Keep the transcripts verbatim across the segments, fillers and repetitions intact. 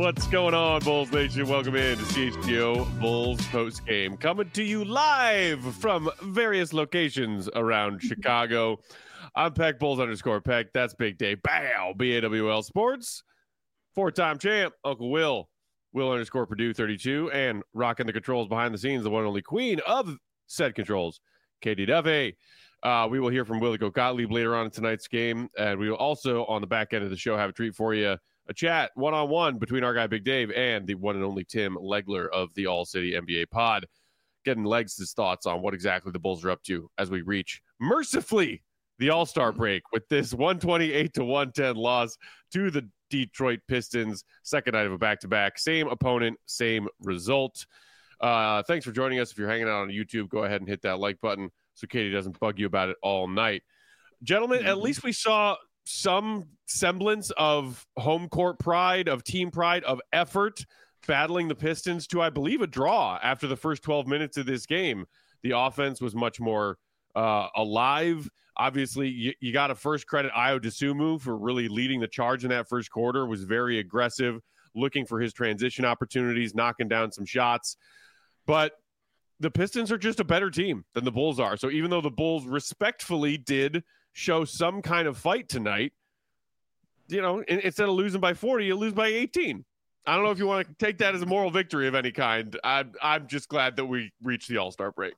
What's going on, Bulls Nation? Welcome in to C H G O Bulls Post Game, coming to you live from various locations around Chicago. I'm Peck, Bulls underscore Peck. That's Big Dave. Bow, B A W L Sports. Four-time champ, Uncle Will. Will underscore Purdue thirty-two, and rocking the controls behind the scenes, the one and only queen of said controls, Katie Duffy. Uh, we will hear from Willie Gottlieb later on in tonight's game, and we will also, on the back end of the show, have a treat for you, a chat one-on-one between our guy Big Dave and the one and only Tim Legler of the All-City N B A Pod, getting Legs' thoughts on what exactly the Bulls are up to as we reach, mercifully, the All-Star break with this one twenty-eight to one ten loss to the Detroit Pistons, second night of a back-to-back. Same opponent, same result. Uh, thanks for joining us. If you're hanging out on YouTube, go ahead and hit that like button so Katie doesn't bug you about it all night. Gentlemen, mm-hmm. At least we saw some semblance of home court pride, of team pride, of effort, battling the Pistons to, I believe, a draw after the first twelve minutes of this game. The offense was much more uh, alive. Obviously, you, you got to first credit Ayo Dosunmu for really leading the charge in that first quarter, was very aggressive, looking for his transition opportunities, knocking down some shots. But the Pistons are just a better team than the Bulls are. So even though the Bulls respectfully did show some kind of fight tonight, you know, instead of losing by forty, you lose by eighteen. I don't know if you want to take that as a moral victory of any kind. I'm, I'm just glad that we reached the All-Star break.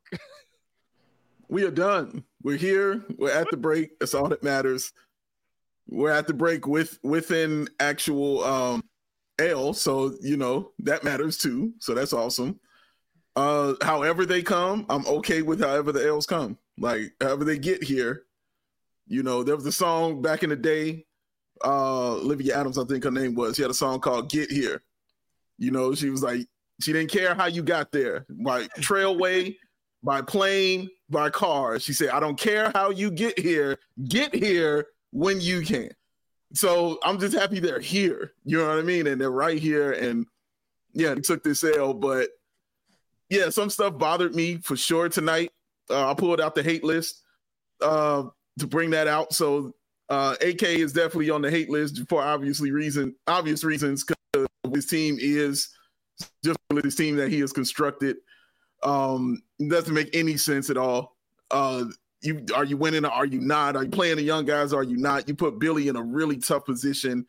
We are done. We're here. We're at the break. That's all that matters. We're at the break with within actual um, L, so, you know, that matters too. So that's awesome. Uh, however they come, I'm okay with however the L's come. Like, however they get here. You know, there was a song back in the day, uh, Olivia Adams, I think her name was. She had a song called Get Here. You know, she was like, she didn't care how you got there. Like, Trailway, by plane, by car. She said, I don't care how you get here. Get here when you can. So I'm just happy they're here. You know what I mean? And they're right here. And, yeah, they took this L. But, yeah, some stuff bothered me for sure tonight. Uh, I pulled out the hate list uh, to bring that out. So uh, A K is definitely on the hate list for obviously reason, obvious reasons, because his team is just this team that he has constructed. Um, it doesn't make any sense at all. Uh, you are you winning or are you not? Are you playing the young guys or are you not? You put Billy in a really tough position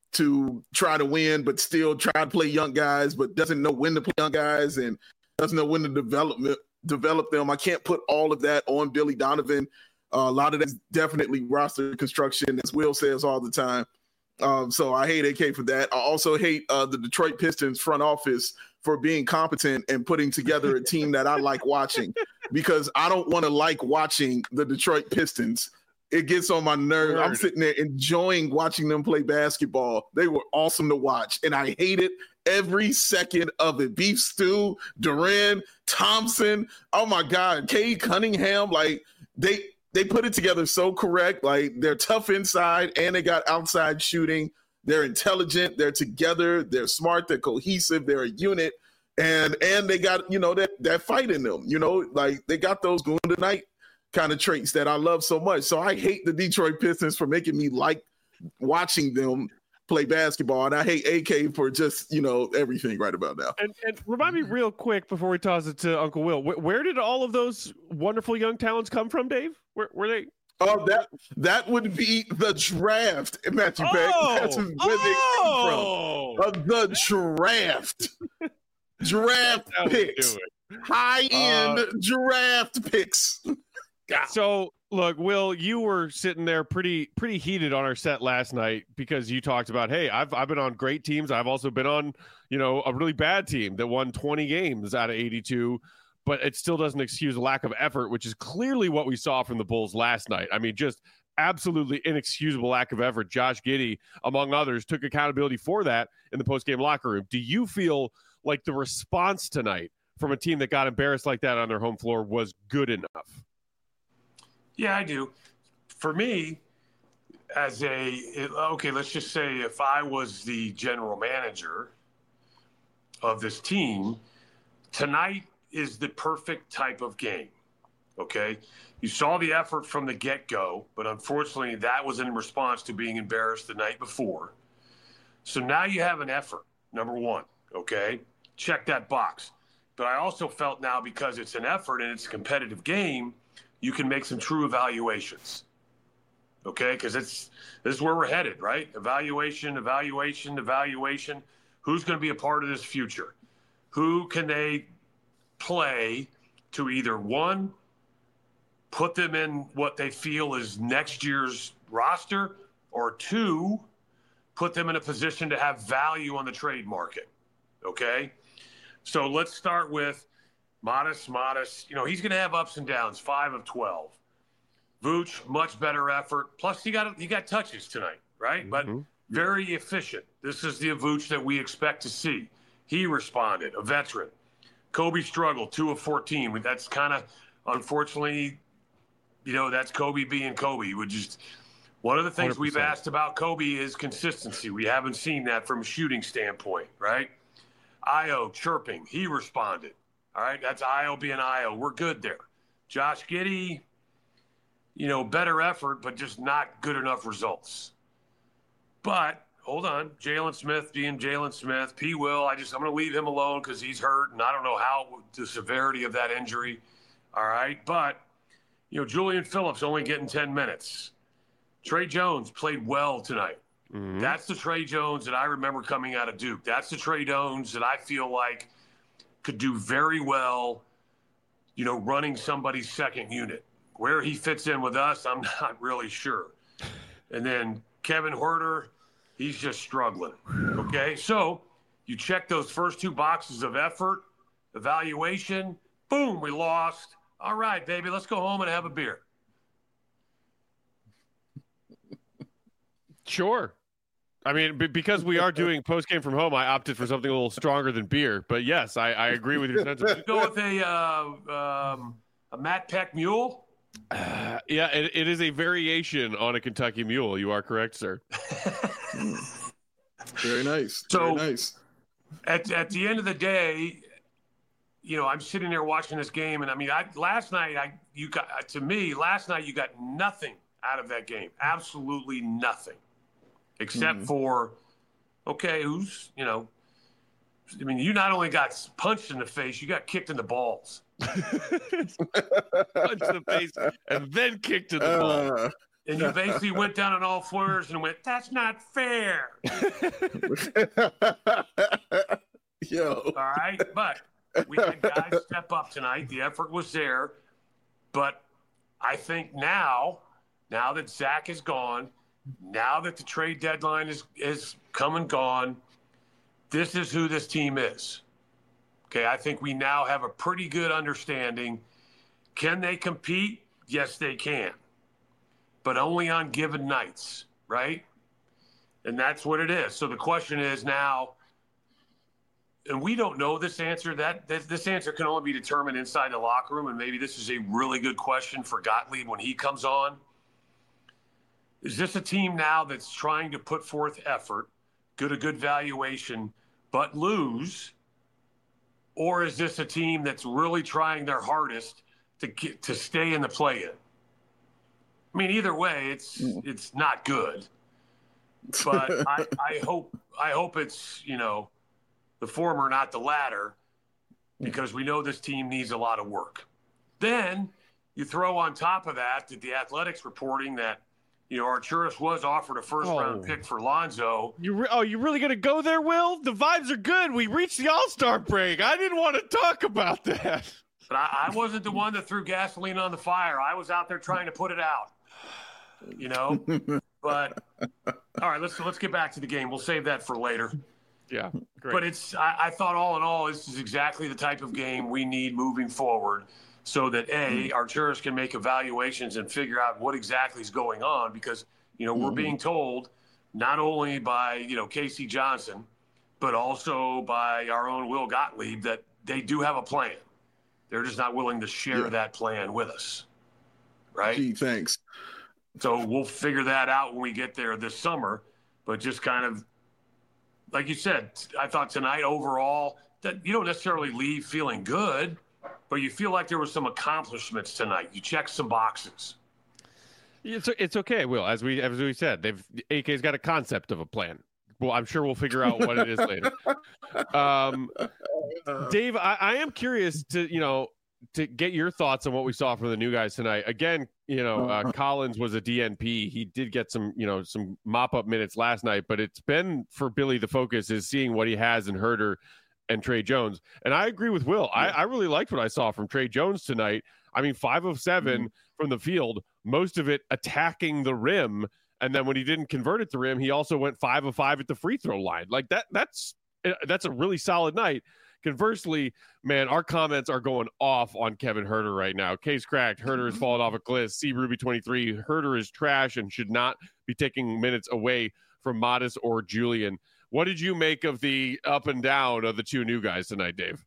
to try to win, but still try to play young guys, but doesn't know when to play young guys and doesn't know when to develop develop them. I can't put all of that on Billy Donovan. Uh, a lot of that's definitely roster construction, as Will says all the time. Um, so I hate A K for that. I also hate uh, the Detroit Pistons front office for being competent and putting together a team that I like watching, because I don't want to like watching the Detroit Pistons. It gets on my nerves. I'm sitting there enjoying watching them play basketball. They were awesome to watch, and I hated every second of it. Beef Stew, Duran, Thompson, oh my God, Cade Cunningham, like they they put it together so correct. Like, they're tough inside and they got outside shooting. They're intelligent. They're together. They're smart. They're cohesive. They're a unit. And and they got, you know, that, that fight in them, you know, like they got those going tonight kind of traits that I love so much. So I hate the Detroit Pistons for making me like watching them play basketball. And I hate A K for just, you know, everything right about now. And, and remind me real quick before we toss it to Uncle Will, wh- where did all of those wonderful young talents come from, Dave? Where were they? Oh, that that would be the draft, Matthew oh, Beck. That's where oh. they come from. Uh, the draft. Draft picks. High-end uh, draft picks. So, look, Will, you were sitting there pretty pretty heated on our set last night because you talked about, hey, I've I've been on great teams. I've also been on, you know, a really bad team that won twenty games out of eighty-two. But it still doesn't excuse a lack of effort, which is clearly what we saw from the Bulls last night. I mean, just absolutely inexcusable lack of effort. Josh Giddey, among others, took accountability for that in the post-game locker room. Do you feel like the response tonight from a team that got embarrassed like that on their home floor was good enough? Yeah, I do. For me, as a, okay, let's just say if I was the general manager of this team, tonight is the perfect type of game, okay? You saw the effort from the get-go, but unfortunately that was in response to being embarrassed the night before. So now you have an effort. number one, okay? Check that box. But I also felt now because it's an effort and it's a competitive game, you can make some true evaluations, okay? Because it's this is where we're headed, right? Evaluation, evaluation, evaluation. Who's going to be a part of this future? Who can they play to either, one, put them in what they feel is next year's roster, or two, put them in a position to have value on the trade market, okay? So let's start with Modest, Modest. You know, he's going to have ups and downs, five of twelve. Vooch, much better effort. Plus, he got he got touches tonight, right? Mm-hmm. But very efficient. This is the Vooch that we expect to see. He responded, a veteran. Kobe struggled, two of fourteen. That's kind of, unfortunately, you know, that's Kobe being Kobe. He would just one of the things one hundred percent we've asked about Kobe is consistency. We haven't seen that from a shooting standpoint, right? Ayo chirping. He responded. All right, that's Ayo being Ayo. We're good there. Josh Giddey, you know, better effort, but just not good enough results. But hold on, Jalen Smith being Jalen Smith. P. Will, I just I'm going to leave him alone because he's hurt, and I don't know how the severity of that injury. All right, but you know, Julian Phillips only getting ten minutes. Trey Jones played well tonight. Mm-hmm. That's the Trey Jones that I remember coming out of Duke. That's the Trey Jones that I feel like could do very well, you know, running somebody's second unit. Where he fits in with us, I'm not really sure. And then Kevin Huerter, he's just struggling. Okay, so you check those first two boxes of effort, evaluation, boom, we lost. All right, baby, let's go home and have a beer. Sure. I mean, b- because we are doing post-game from home, I opted for something a little stronger than beer. But yes, I, I agree with your sentiment. You go with a, uh, um, a Matt Peck mule? Uh, yeah, it, it is a variation on a Kentucky mule. You are correct, sir. Very nice. So, Very nice. At, at the end of the day, you know, I'm sitting there watching this game, and I mean, I, last night, I you got to me, last night you got nothing out of that game. Absolutely nothing. Except mm-hmm. for, okay, who's, you know, I mean, you not only got punched in the face, you got kicked in the balls. Punched in the face and then kicked in the uh, balls. And you basically went down on all fours and went, that's not fair. Yo. All right. But we had guys step up tonight. The effort was there. But I think now, now that Zach is gone, now that the trade deadline is, is come and gone, this is who this team is. Okay, I think we now have a pretty good understanding. Can they compete? Yes, they can. But only on given nights, right? And that's what it is. So the question is now, and we don't know this answer. That, that this answer can only be determined inside the locker room, and maybe this is a really good question for Gottlieb when he comes on. Is this a team now that's trying to put forth effort, good a good valuation, but lose? Or is this a team that's really trying their hardest to get to stay in the play-in? I mean, either way, it's it's not good. But I, I hope I hope it's, you know, the former, not the latter, because we know this team needs a lot of work. Then you throw on top of that that the Athletics reporting that, you know, Arturas was offered a first-round oh. pick for Lonzo. You re- oh, you really going to go there, Will? The vibes are good. We reached the All-Star break. I didn't want to talk about that. But I, I wasn't the one that threw gasoline on the fire. I was out there trying to put it out, you know. But, all right, let's let's get back to the game. We'll save that for later. Yeah, great. But it's I, I thought all in all, this is exactly the type of game we need moving forward, so that, A, Arturas can make evaluations and figure out what exactly is going on, because, you know, mm-hmm. we're being told not only by, you know, K C Johnson, but also by our own Will Gottlieb that they do have a plan. They're just not willing to share yeah. that plan with us, right? Gee, thanks. So we'll figure that out when we get there this summer, but just kind of, like you said, I thought tonight overall that you don't necessarily leave feeling good, but you feel like there were some accomplishments tonight. You checked some boxes. It's it's okay, Will. As we as we said, they've A K's got a concept of a plan. well, I'm sure we'll figure out what it is later. Um, Dave, I, I am curious to, you know, to get your thoughts on what we saw from the new guys tonight. Again, you know, uh, Collins was a D N P. He did get some, you know, some mop-up minutes last night, but it's been, for Billy, the focus is seeing what he has in Huerter and Trey Jones. And I agree with Will. I, I really liked what I saw from Trey Jones tonight. I mean, five of seven mm-hmm. from the field, most of it attacking the rim. And then when he didn't convert it to rim, he also went five of five at the free throw line. Like that, that's, that's a really solid night. Conversely, man, our comments are going off on Kevin Huerter right now. Case cracked. Huerter has fallen off a cliff. C. Ruby twenty-three. Huerter is trash and should not be taking minutes away from Modest or Julian. What did you make of the up and down of the two new guys tonight, Dave?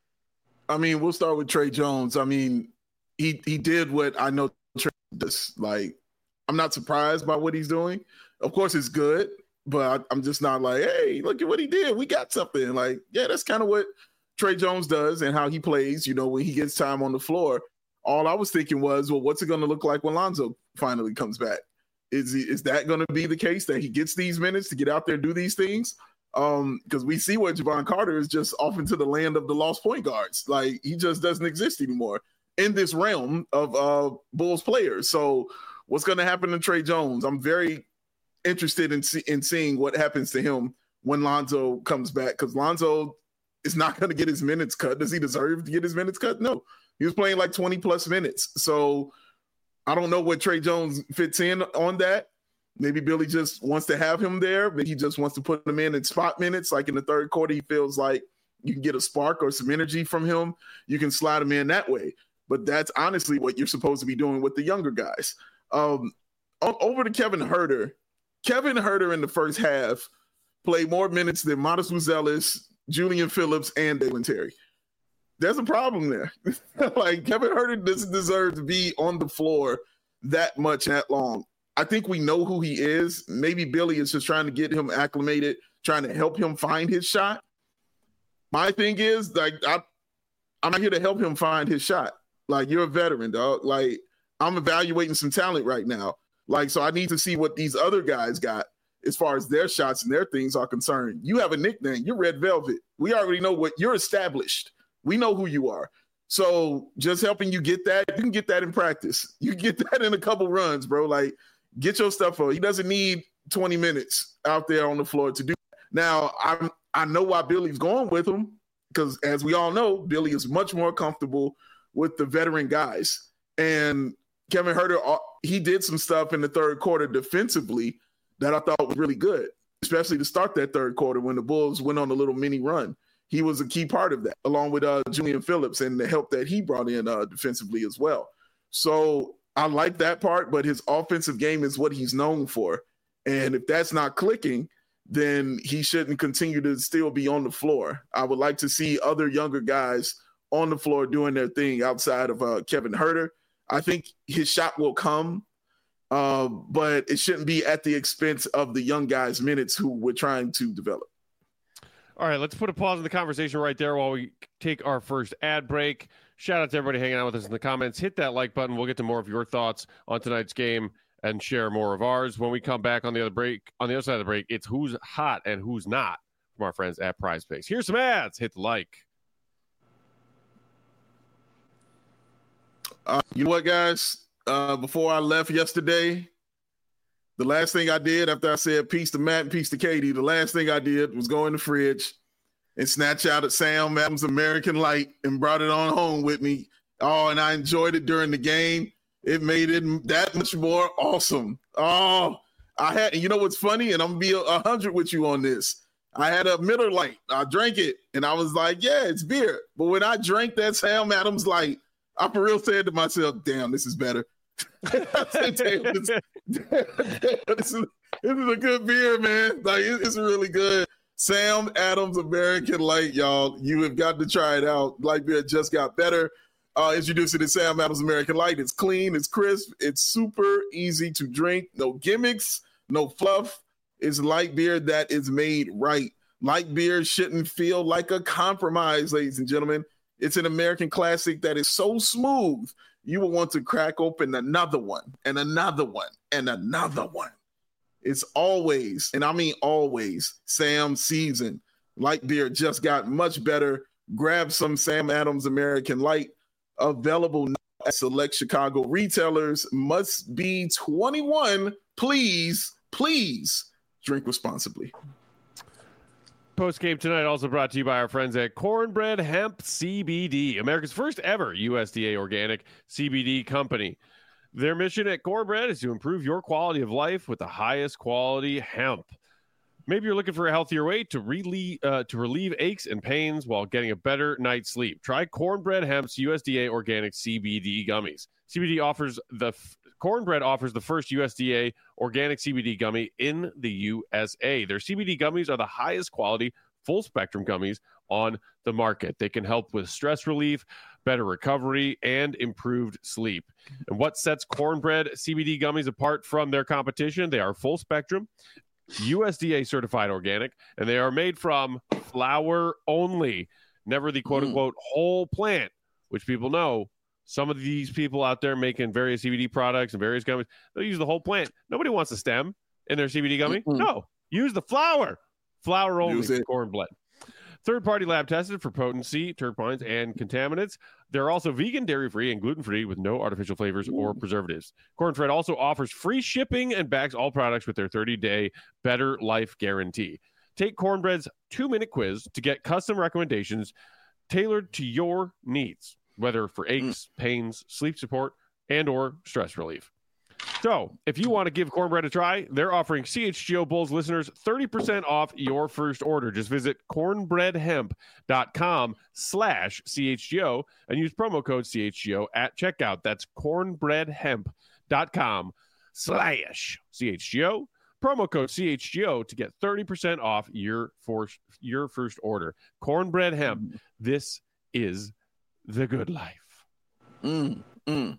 I mean, we'll start with Trey Jones. I mean, he he did what I know Trey does. Like, I'm not surprised by what he's doing. Of course, it's good. But I'm just not like, hey, look at what he did. We got something. Like, yeah, that's kind of what Trey Jones does and how he plays, you know, when he gets time on the floor. All I was thinking was, well, what's it going to look like when Lonzo finally comes back? Is he, is that going to be the case that he gets these minutes to get out there and do these things? Um, because we see where Javon Carter is just off into the land of the lost point guards. Like, he just doesn't exist anymore in this realm of uh, Bulls players. So what's going to happen to Trey Jones? I'm very interested in see, in seeing what happens to him when Lonzo comes back, because Lonzo is not going to get his minutes cut. Does he deserve to get his minutes cut? No. He was playing like twenty plus minutes. So I don't know what Trey Jones fits in on that. Maybe Billy just wants to have him there, but he just wants to put him in in spot minutes. Like in the third quarter, he feels like you can get a spark or some energy from him. You can slide him in that way. But that's honestly what you're supposed to be doing with the younger guys. Um, over to Kevin Huerter. Kevin Huerter in the first half played more minutes than Modest Buzelis, Julian Phillips, and Dalen Terry. There's a problem there. Like, Kevin Huerter doesn't deserve to be on the floor that much, that long. I think we know who he is. Maybe Billy is just trying to get him acclimated, trying to help him find his shot. My thing is, like, I, I'm not here to help him find his shot. Like, you're a veteran, dog. Like, I'm evaluating some talent right now. Like, so I need to see what these other guys got as far as their shots and their things are concerned. You have a nickname. You're Red Velvet. We already know what you're established. We know who you are. So just helping you get that, you can get that in practice. You can get that in a couple runs, bro. Like, get your stuff on. He doesn't need twenty minutes out there on the floor to do that. Now, I'm, I know why Billy's going with him, because as we all know, Billy is much more comfortable with the veteran guys. And Kevin Huerter, he did some stuff in the third quarter defensively that I thought was really good, especially to start that third quarter when the Bulls went on a little mini run. He was a key part of that, along with uh, Julian Phillips and the help that he brought in uh, defensively as well. So I like that part, but his offensive game is what he's known for. And if that's not clicking, then he shouldn't continue to still be on the floor. I would like to see other younger guys on the floor doing their thing outside of uh, Kevin Huerter. I think his shot will come, uh, but it shouldn't be at the expense of the young guys' minutes who we're trying to develop. All right, let's put a pause in the conversation right there while we take our first ad break. Shout out to everybody hanging out with us in the comments. Hit that like button. We'll get to more of your thoughts on tonight's game and share more of ours. When we come back on the other break, on the other side of the break, it's who's hot and who's not from our friends at Prize Picks. Here's some ads. Hit the like. Uh, you know what, guys? Uh, before I left yesterday, the last thing I did after I said peace to Matt and peace to Katie, the last thing I did was go in the fridge and snatch out a Sam Adams American Light and brought it on home with me. Oh, and I enjoyed it during the game. It made it that much more awesome. Oh, I had, and you know what's funny? And I'm going to be a hundred with you on this. I had a Miller Lite. I drank it, and I was like, yeah, it's beer. But when I drank that Sam Adams Light, I for real said to myself, damn, this is better. I said, damn, this, damn, damn, this, is, this is a good beer, man. Like, it, it's really good. Sam Adams American Light, y'all. You have got to try it out. Light beer just got better. Uh, introducing the Sam Adams American Light. It's clean, it's crisp, it's super easy to drink. No gimmicks, no fluff. It's light beer that is made right. Light beer shouldn't feel like a compromise, ladies and gentlemen. It's an American classic that is so smooth, you will want to crack open another one and another one and another one. It's always, and I mean always, Sam Season. Light beer just got much better. Grab some Sam Adams American Light, available now at select Chicago retailers. Must be twenty-one. Please, please drink responsibly. Post game tonight also brought to you by our friends at Cornbread Hemp C B D, America's first ever U S D A organic C B D company. Their mission at Cornbread is to improve your quality of life with the highest quality hemp. Maybe you're looking for a healthier way to relieve, uh, to relieve aches and pains while getting a better night's sleep. Try Cornbread Hemp's U S D A organic C B D gummies. C B D offers the f- Cornbread offers the first U S D A organic C B D gummy in the U S A. Their C B D gummies are the highest quality, full spectrum gummies on the market. They can help with stress relief, better recovery, and improved sleep. And what sets Cornbread C B D gummies apart from their competition? They are full spectrum, U S D A certified organic, and they are made from flower only, never the quote unquote mm. whole plant, which people know. Some of these people out there making various C B D products and various gummies, they'll use the whole plant. Nobody wants a stem in their C B D gummy. Mm-hmm. No, use the flower. Flower only, Cornbread. Third-party lab tested for potency, terpenes, and contaminants. They're also vegan, dairy-free, and gluten-free with no artificial flavors or preservatives. Cornbread also offers free shipping and backs all products with their thirty-day Better Life Guarantee. Take Cornbread's two-minute quiz to get custom recommendations tailored to your needs, whether for aches, pains, sleep support, and or stress relief. So, if you want to give Cornbread a try, they're offering C H G O Bulls listeners thirty percent off your first order. Just visit cornbreadhemp.com slash CHGO and use promo code C H G O at checkout. That's cornbreadhemp.com slash CHGO. Promo code C H G O to get thirty percent off your, for, your first order. Cornbread Hemp. This is the good life. Mm, mm.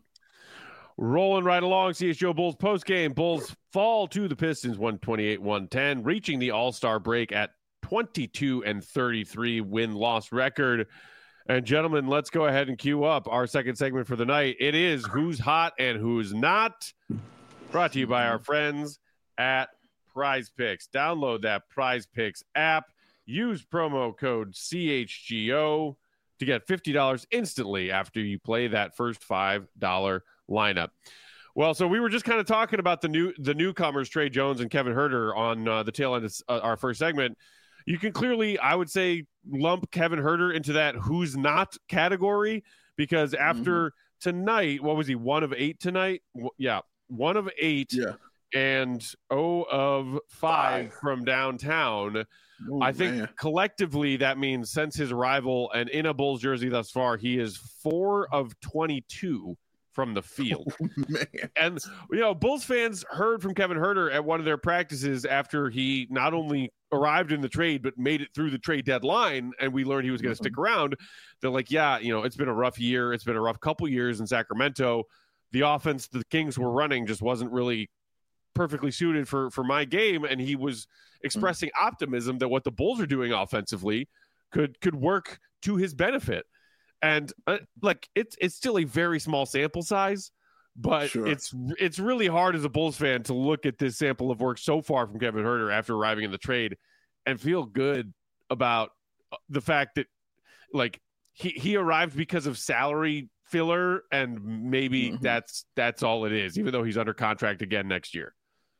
Rolling right along, C H G O Bulls postgame. Bulls fall to the Pistons one twenty-eight one ten, reaching the All-Star break at twenty-two and thirty-three win-loss record. And gentlemen, let's go ahead and cue up our second segment for the night. It is Who's Hot and Who's Not, brought to you by our friends at Prize Picks. Download that Prize Picks app. Use promo code C H G O to get fifty dollars instantly after you play that first five dollars lineup. Well, so we were just kind of talking about the new the newcomers, Trey Jones and Kevin Huerter, on uh, the tail end of uh, our first segment. You can clearly, I would say, lump Kevin Huerter into that who's not category, because after mm-hmm. tonight, what was he, one of eight tonight? W- yeah, one of eight. Yeah. And oh of five, five. from downtown. Oh, I think man. collectively that means since his arrival and in a Bulls jersey thus far, he is four of twenty-two from the field. Oh, man. And, you know, Bulls fans heard from Kevin Huerter at one of their practices after he not only arrived in the trade, but made it through the trade deadline, and we learned he was going to mm-hmm. stick around. They're like, yeah, you know, it's been a rough year. It's been a rough couple years in Sacramento. The offense the Kings were running just wasn't really perfectly suited for, for my game. And he was expressing mm-hmm. optimism that what the Bulls are doing offensively could, could work to his benefit. And uh, like it's it's still a very small sample size, but sure. it's it's really hard as a Bulls fan to look at this sample of work so far from Kevin Huerter after arriving in the trade and feel good about the fact that like he, he arrived because of salary filler, and maybe mm-hmm. that's that's all it is, even though he's under contract again next year.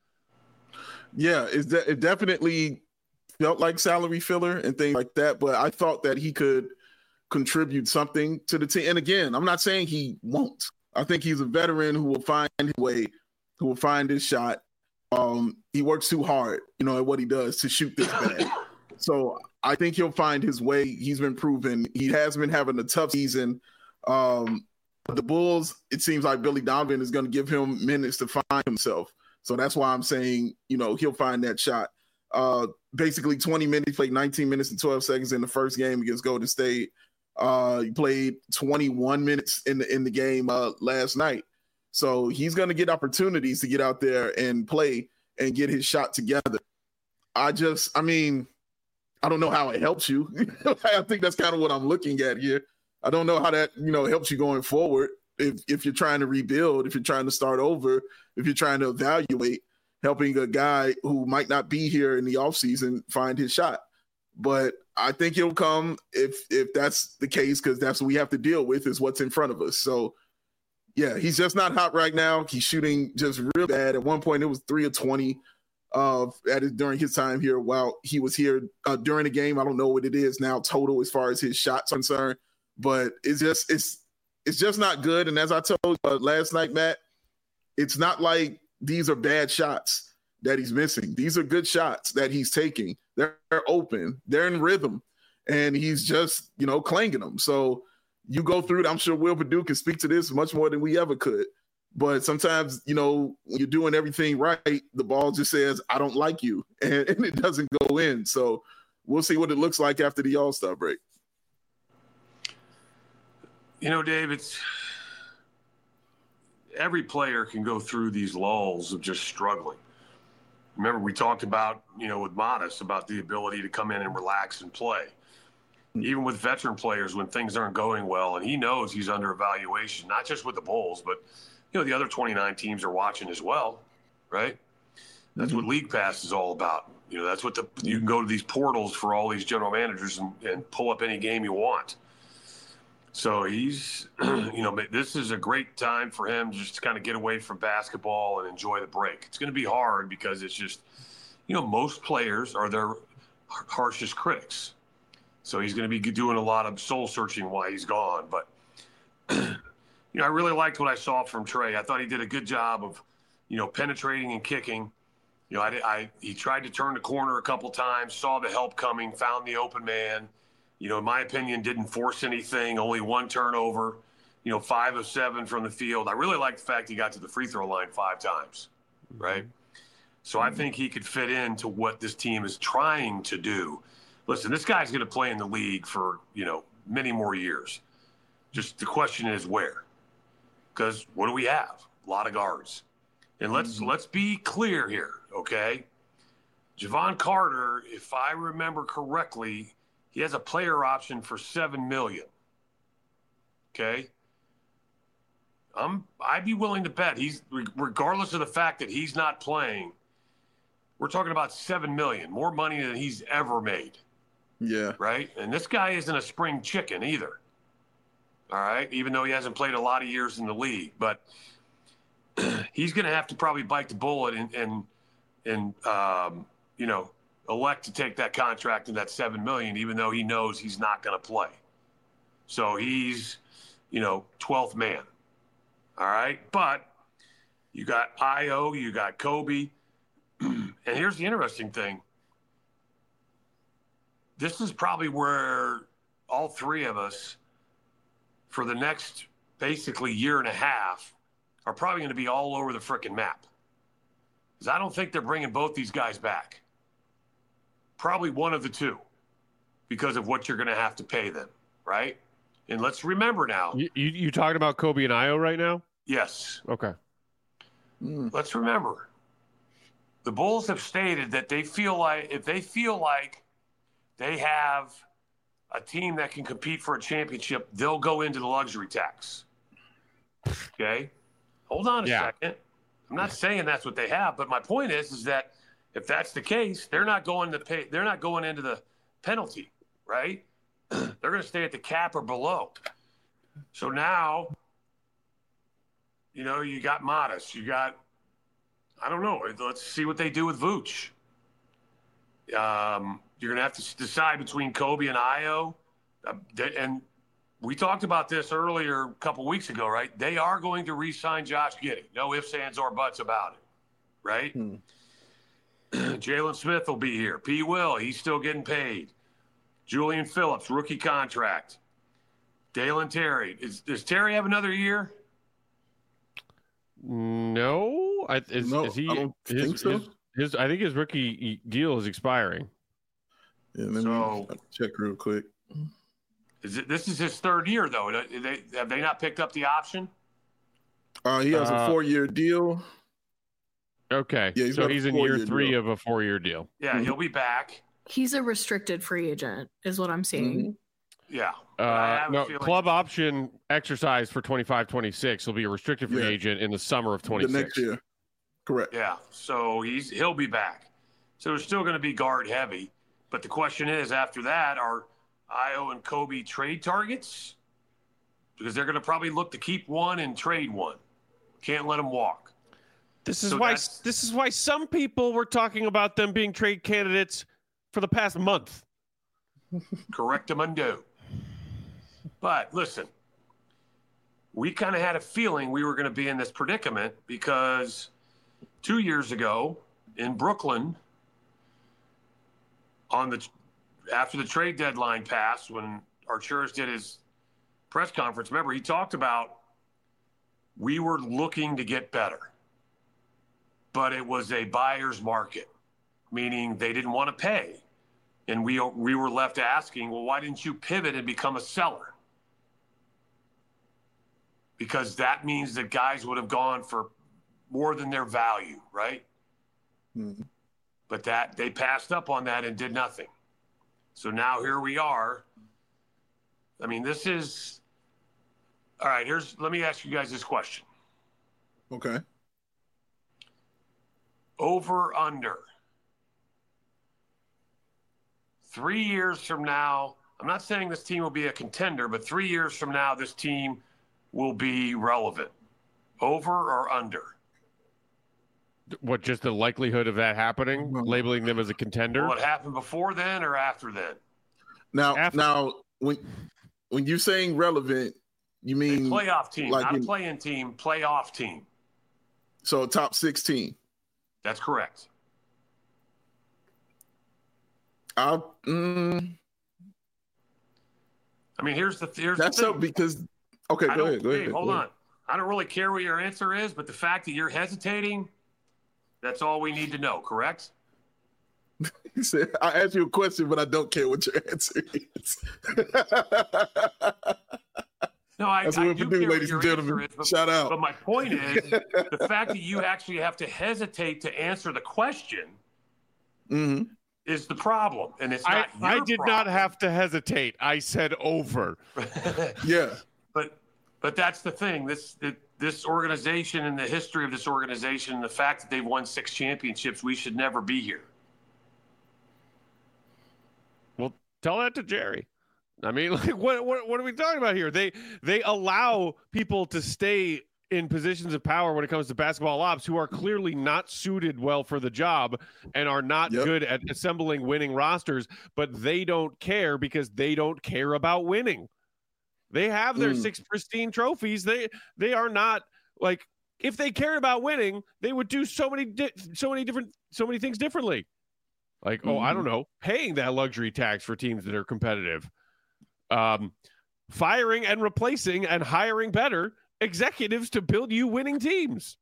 Yeah, it's de- it definitely felt like salary filler and things like that, but I thought that he could contribute something to the team. And again, I'm not saying he won't. I think he's a veteran who will find his way, who will find his shot. Um, he works too hard, you know, at what he does to shoot this bad. So I think he'll find his way. He's been proven. He has been having a tough season. Um, the Bulls, it seems like Billy Donovan is going to give him minutes to find himself. So that's why I'm saying, you know, he'll find that shot. Uh, basically twenty minutes, played nineteen minutes and twelve seconds in the first game against Golden State. Uh, he played twenty-one minutes in the in the game uh, last night. So he's going to get opportunities to get out there and play and get his shot together. I just, I mean, I don't know how it helps you. I think that's kind of what I'm looking at here. I don't know how that, you know, helps you going forward. If if you're trying to rebuild, if you're trying to start over, if you're trying to evaluate, helping a guy who might not be here in the offseason find his shot. But I think it'll come if if that's the case, because that's what we have to deal with is what's in front of us. So, yeah, he's just not hot right now. He's shooting just real bad. At one point, it was three of twenty uh, at his, during his time here while he was here uh, during the game. I don't know what it is now total as far as his shots are concerned, but it's just it's it's just not good. And as I told you uh, last night, Matt, it's not like these are bad shots that he's missing. These are good shots that he's taking. They're open. They're in rhythm. And he's just, you know, clanging them. So you go through it. I'm sure Will Perdue can speak to this much more than we ever could. But sometimes, you know, when you're doing everything right, the ball just says, I don't like you. And, and it doesn't go in. So we'll see what it looks like after the All-Star break. You know, Dave, it's every player can go through these lulls of just struggling. Remember, we talked about, you know, with Modest about the ability to come in and relax and play. Even with veteran players, when things aren't going well, and he knows he's under evaluation, not just with the Bulls, but, you know, the other twenty-nine teams are watching as well, right? That's what League Pass is all about. You know, that's what the you can go to these portals for all these general managers and, and pull up any game you want. So he's, you know, this is a great time for him just to kind of get away from basketball and enjoy the break. It's going to be hard because it's just, you know, most players are their harshest critics. So he's going to be doing a lot of soul searching while he's gone. But, you know, I really liked what I saw from Trey. I thought he did a good job of, you know, penetrating and kicking. You know, I, I he tried to turn the corner a couple times, saw the help coming, found the open man. You know, in my opinion, didn't force anything, only one turnover, you know, five of seven from the field. I really like the fact he got to the free throw line five times, right? So I think he could fit into what this team is trying to do. Listen, this guy's going to play in the league for, you know, many more years. Just the question is where? Because what do we have? A lot of guards. And let's mm-hmm. let's be clear here, okay? Javon Carter, if I remember correctly, he has a player option for seven million dollars. Okay? I'm, I'd be willing to bet he's, regardless of the fact that he's not playing, we're talking about seven million dollars, more money than he's ever made. Yeah. Right? And this guy isn't a spring chicken either. All right? Even though he hasn't played a lot of years in the league. But he's going to have to probably bite the bullet and, and, and um, you know, elect to take that contract and that seven million dollars, even though he knows he's not going to play. So he's, you know, twelfth man. All right? But you got Io, you got Kobe. And here's the interesting thing. This is probably where all three of us, for the next basically year and a half, are probably going to be all over the frickin' map. Because I don't think they're bringing both these guys back. Probably one of the two, because of what you're going to have to pay them, right? And let's remember now. You, you, you talking about Kobe and Io right now? Yes. Okay. Mm. Let's remember. The Bulls have stated that they feel like if they feel like they have a team that can compete for a championship, they'll go into the luxury tax. Okay? Hold on a yeah. second. I'm not saying that's what they have, but my point is, is that if that's the case, they're not going to pay. They're not going into the penalty, right? They're going to stay at the cap or below. So now, you know, you got Modest. You got, I don't know. Let's see what they do with Vooch. Um, you're going to have to decide between Kobe and Io. Uh, and we talked about this earlier a couple weeks ago, right? They are going to re-sign Josh Giddey. No ifs, ands, or buts about it, right? Hmm. Jalen Smith will be here. P. Will, he's still getting paid. Julian Phillips, rookie contract. Dalen Terry. Is, does Terry have another year? No. I, is, no, is he, I don't his, think so. His, his, I think his rookie deal is expiring. Yeah, let so, me check real quick. Is it, this is his third year, though. They, have they not picked up the option? Uh, he has uh, a four-year deal. Okay, yeah, he's so he's in year three deal. of a four-year deal. Yeah, mm-hmm. He'll be back. He's a restricted free agent, is what I'm seeing. Mm-hmm. Yeah. Uh, no, club option exercise for twenty-five twenty-six will be a restricted free yeah. agent in the summer of twenty-six. The next year. Correct. Yeah, so he's he'll be back. So it's still going to be guard heavy. But the question is, after that, are Ayo and Kobe trade targets? Because they're going to probably look to keep one and trade one. Can't let them walk. This is So why that's- this is why some people were talking about them being trade candidates for the past month. Correctamundo. But listen, we kind of had a feeling we were going to be in this predicament because two years ago in Brooklyn, on the after the trade deadline passed, when Arturas did his press conference, remember he talked about we were looking to get better, but it was a buyer's market, meaning they didn't want to pay. And we we were left asking, well, why didn't you pivot and become a seller? Because that means that guys would have gone for more than their value, right? Mm-hmm. But that they passed up on that and did nothing. So now here we are. I mean, this is all right. Here's let me ask you guys this question. Okay. Over under. Three years from now, I'm not saying this team will be a contender, but three years from now, this team will be relevant. Over or under? What, just the likelihood of that happening, labeling them as a contender? Will it happen before then or after then? Now, After- now, when when you're saying relevant, you A mean playoff team, like not in- a play-in team, playoff team. so top sixteen? That's correct. I mm, I mean, here's the here's that's the thing. up because okay, I go don't, ahead, go Dave, ahead. hold go on. ahead. I don't really care what your answer is, but the fact that you're hesitating, that's all we need to know, correct? He said, I asked you a question, but I don't care what your answer is. No, I, That's I what we do do, care what ladies your and gentlemen. answer is, but, Shout out. but my point is the fact that you actually have to hesitate to answer the question hmm is the problem, and it's I, not I your did not problem. have to hesitate. I said over. Yeah. But but that's the thing. This it, this organization and the history of this organization, the fact that they've won six championships, we should never be here. Well, tell that to Jerry. I mean, like, what, what, what are we talking about here? They, they allow people to stay in positions of power when it comes to basketball ops who are clearly not suited well for the job and are not Yep. good at assembling winning rosters, but they don't care because they don't care about winning. They have their Mm. six pristine trophies. They, they are not like, if they cared about winning, they would do so many, di- so many different, so many things differently. Like, oh, I Mhm. don't know, paying that luxury tax for teams that are competitive. Um, firing and replacing and hiring better executives to build you winning teams.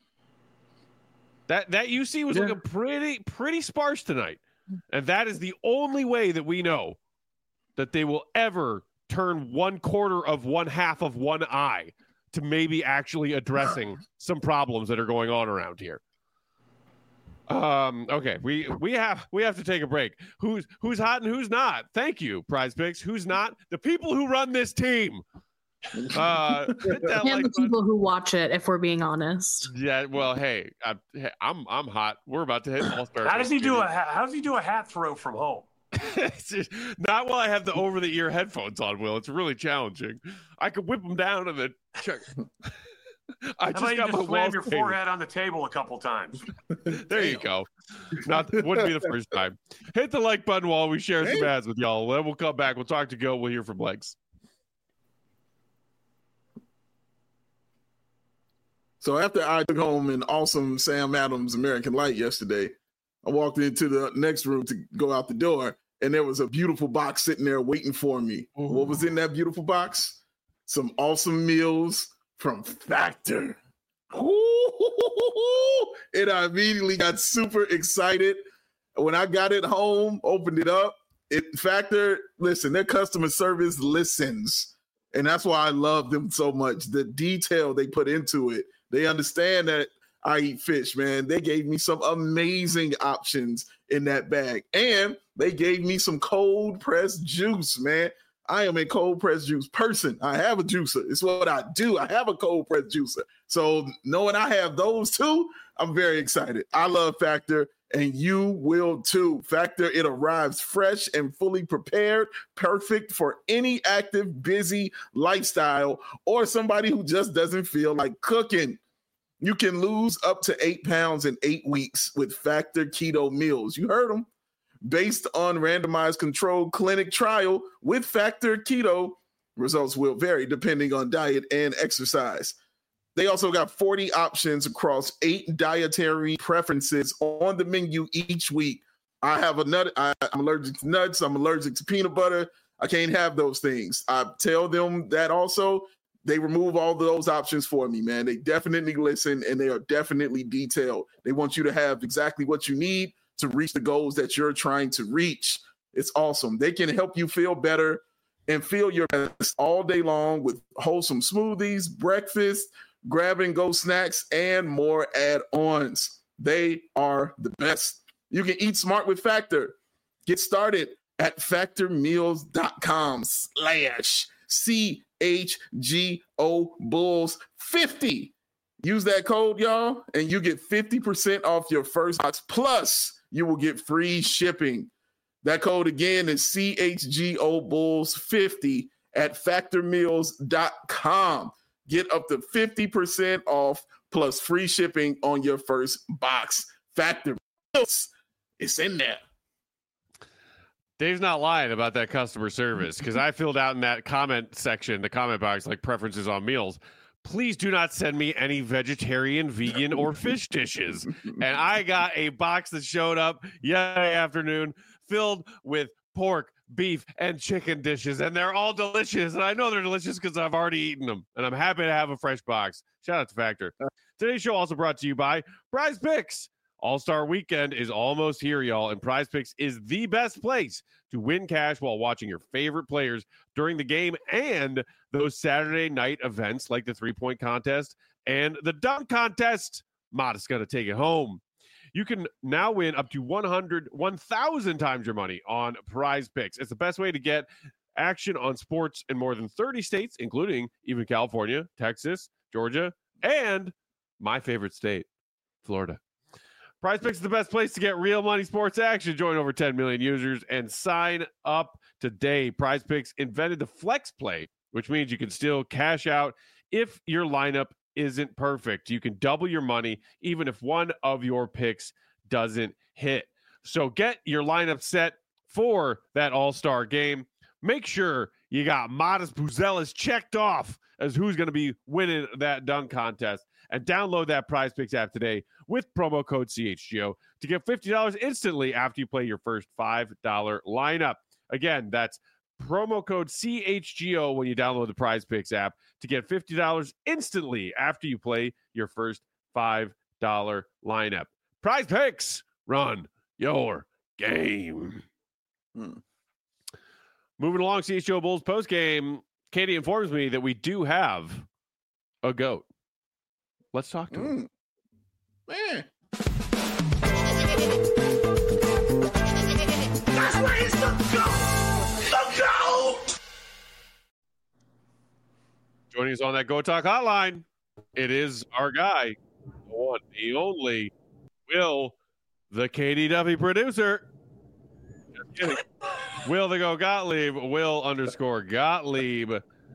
That that U C was Yeah. looking pretty pretty sparse tonight, and that is the only way that we know that they will ever turn one quarter of one half of one eye to maybe actually addressing some problems that are going on around here. Um, okay, we we have we have to take a break. Who's who's hot and who's not? Thank you, Prize Picks. Who's not? The people who run this team. Uh, hit that And like the button. people who watch it, if we're being honest. Yeah, well, hey, I, hey, I'm I'm hot. We're about to hit All Star. How does he do a How does he do a hat throw from home? Not while I have the over the ear headphones on, Will. It's really challenging. I could whip them down and then check. I How just about you got my just slam walls your painted. forehead on the table a couple times? There you go. Not wouldn't be the first time. Hit the like button while we share some Hey. ads with y'all. Then we'll come back. We'll talk to Go. We'll hear from Legs. So after I took home an awesome Sam Adams American Light yesterday, I walked into the next room to go out the door, and there was a beautiful box sitting there waiting for me. Ooh. What was in that beautiful box? Some awesome meals from Factor. Ooh, and I immediately got super excited. When I got it home, opened it up, it Factor, listen, their customer service listens. And that's why I love them so much. The detail they put into it. They understand that I eat fish, man. They gave me some amazing options in that bag. And they gave me some cold pressed juice, man. I am a cold pressed juice person. I have a juicer. It's what I do. I have a cold pressed juicer. So knowing I have those two, I'm very excited. I love Factor, and you will too. Factor, it arrives fresh and fully prepared, perfect for any active, busy lifestyle or somebody who just doesn't feel like cooking. You can lose up to eight pounds in eight weeks with Factor Keto Meals. You heard them. Based on randomized controlled clinic trial with Factor Keto, results will vary depending on diet and exercise. They also got forty options across eight dietary preferences on the menu each week. I have a nut. I, I'm allergic to nuts. I'm allergic to peanut butter. I can't have those things. I tell them that also. They remove all those options for me, man. They definitely listen, and they are definitely detailed. They want you to have exactly what you need to reach the goals that you're trying to reach. It's awesome. They can help you feel better and feel your best all day long with wholesome smoothies, breakfast, grab-and-go snacks, and more add-ons. They are the best. You can eat smart with Factor. Get started at factormeals.com slash C H G O Bulls fifty. Use that code, y'all, and you get fifty percent off your first box. Plus, you will get free shipping. That code again is C H G O Bulls fifty at factor meals dot com. Get up to fifty percent off plus free shipping on your first box. Factor Meals, it's in there. Dave's not lying about that customer service, because I filled out in that comment section, the comment box, like preferences on meals. Please do not send me any vegetarian, vegan, or fish dishes. And I got a box that showed up yesterday afternoon filled with pork, beef, and chicken dishes, and they're all delicious. And I know they're delicious because I've already eaten them, and I'm happy to have a fresh box. Shout out to Factor. Today's show also brought to you by Prize Picks. All-Star Weekend is almost here, y'all, and Prize Picks is the best place to win cash while watching your favorite players during the game and those Saturday night events like the three-point contest and the dunk contest. Modest's going to take it home. You can now win up to one hundred, one thousand times your money on Prize Picks. It's the best way to get action on sports in more than thirty states, including even California, Texas, Georgia, and my favorite state, Florida. Prize Picks is the best place to get real money sports action. Join over ten million users and sign up today. Prize Picks invented the flex play, which means you can still cash out if your lineup isn't perfect. You can double your money even if one of your picks doesn't hit. So get your lineup set for that all-star game. Make sure you got Modest Buzelis checked off as who's going to be winning that dunk contest. And download that Prize Picks app today with promo code C H G O to get fifty dollars instantly after you play your first five dollar lineup. Again, that's promo code C H G O when you download the Prize Picks app to get fifty dollars instantly after you play your first five dollar lineup. Prize Picks, run your game. Hmm. Moving along, C H G O Bulls postgame, Katie informs me that we do have a GOAT. Let's talk to him. Mm. Man. That's where he's the GOAT! The GOAT! Joining us on that Go Talk hotline, it is our guy, the one, the only, Will, the K D W producer. Just kidding. Will the Go Gottlieb, Will underscore Gottlieb.